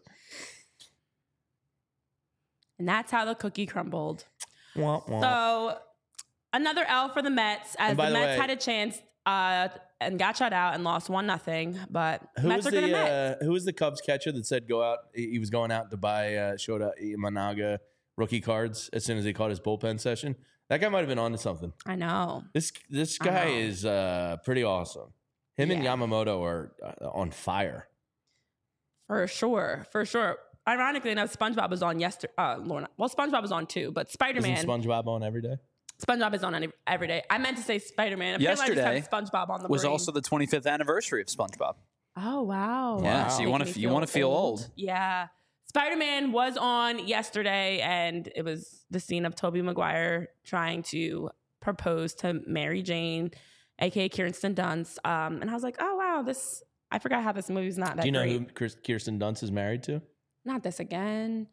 And that's how the cookie crumbled. Wah, wah. So another L for the Mets, as And by the the Mets way- had a chance uh, and got shut out and lost one nothing. But Who Mets was are going to the Mets. uh, who was the Cubs catcher that said go out? He he was going out to buy uh, Shota Imanaga rookie cards as soon as he caught his bullpen session. That guy might have been onto something. I know. This this I guy know. is uh, pretty awesome. Him and Yeah. Yamamoto are uh, on fire. For sure. For sure. Ironically enough, SpongeBob was on yesterday. Uh, Lorna. Well, SpongeBob was on too, but Spider-Man. Isn't SpongeBob on every day? SpongeBob is on any, every day. I meant to say Spider-Man. Apparently Yesterday I just have SpongeBob on the was brain. also the twenty-fifth anniversary of SpongeBob. Oh, wow. Yeah, Wow. so you wanna Making f- me you wanna feel old. Yeah. Spider-Man was on yesterday, and it was the scene of Tobey Maguire trying to propose to Mary Jane, a k a. Kirsten Dunst. Um, and I was like, oh, wow, this... I forgot how this movie's not that Do you know great. who Kir- Kirsten Dunst is married to? Not this again.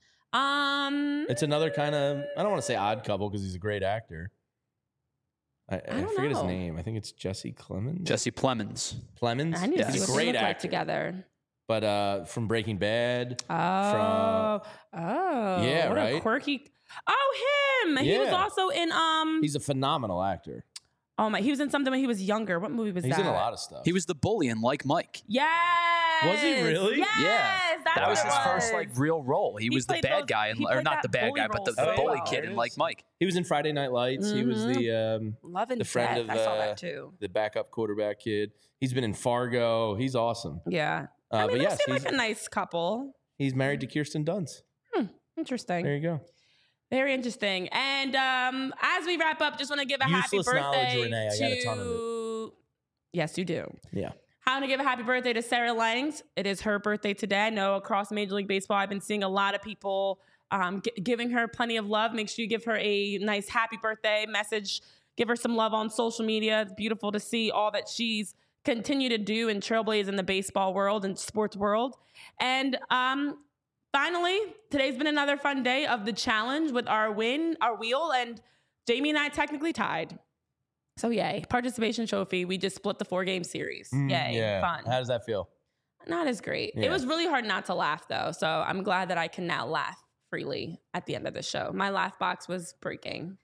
Um, It's another kind of, I don't want to say odd couple because he's a great actor. I, I, I don't forget his know. name. I think it's Jesse Clemens. Jesse Plemons. Plemons. I need Yeah. to see He's what a they great look like actor. together. But uh, from Breaking Bad. Oh, oh, Yeah, what a right? quirky. Oh, him. He was Yeah. also in um. He's a phenomenal actor. Oh my, he was in something when he was younger. What movie was He's that? in a lot of stuff. He was the bully in Like Mike. Yes. Was he really? Yes. Yeah. That's That was what his it first like real role. He, He was the played bad those- guy, in, he or played not that the bad bully guy, but role the, so the bully well. kid in Like Mike. He was in Friday Night Lights. He was the um, Love and the friend Death. of I saw uh, that too. the backup quarterback kid. He's been in Fargo. He's awesome. Yeah. Uh, I mean, but they yes, seem he's, like a nice couple. he's married to Kirsten Dunst. Interesting. There you go. Very interesting. And um, as we wrap up, just want to give a Useless happy knowledge, birthday Renee. I to. got a ton of it. Yes, you do. Yeah. I want to give a happy birthday to Sarah Langs. It is her birthday today. I know across Major League Baseball, I've been seeing a lot of people um, g- giving her plenty of love. Make sure you give her a nice happy birthday message. Give her some love on social media. It's beautiful to see all that she's continued to do and trailblaze in the baseball world and sports world. And um, finally, today's been another fun day of the challenge with our win, our wheel, and Jamie and I technically tied. So yay, participation trophy. We just split the four game series. Mm, Yay, yeah. fun. How does that feel? Not as great. Yeah. It was really hard not to laugh though. So I'm glad that I can now laugh freely at the end of the show. My laugh box was breaking.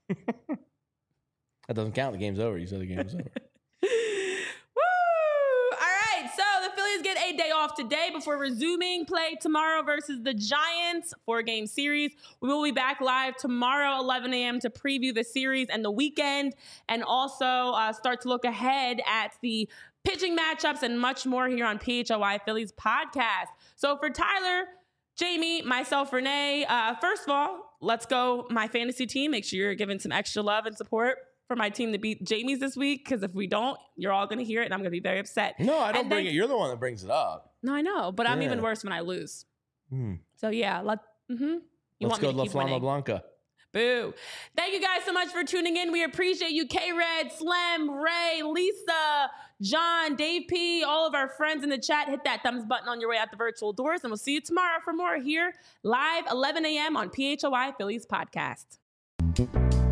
That doesn't count. The game's over. You said the game was over. Woo! All right. So the Phillies get a day off today before resuming play tomorrow versus the Giants. Four game series. We will be back live tomorrow, eleven a.m. to preview the series and the weekend, and also uh, start to look ahead at the pitching matchups and much more here on P H O Y Phillies podcast. So for Tyler, Jamie, myself, Renee, uh, first of all, let's go my fantasy team. Make sure you're giving some extra love and support for my team to beat Jamie's this week, because if we don't, you're all going to hear it and I'm going to be very upset. No, I don't And bring then- it. You're the one that brings it up. No, I know, but I'm Yeah. even worse when I lose. Hmm. So yeah, let, mm-hmm. you Let's want go me to La keep Flama winning. Blanca. Boo. Thank you guys so much for tuning in. We appreciate you, K-Red, Slim, Ray, Lisa, John, Dave P, all of our friends in the chat. Hit that thumbs button on your way out the virtual doors, and we'll see you tomorrow for more here live eleven a.m. on P H O Y Phillies podcast.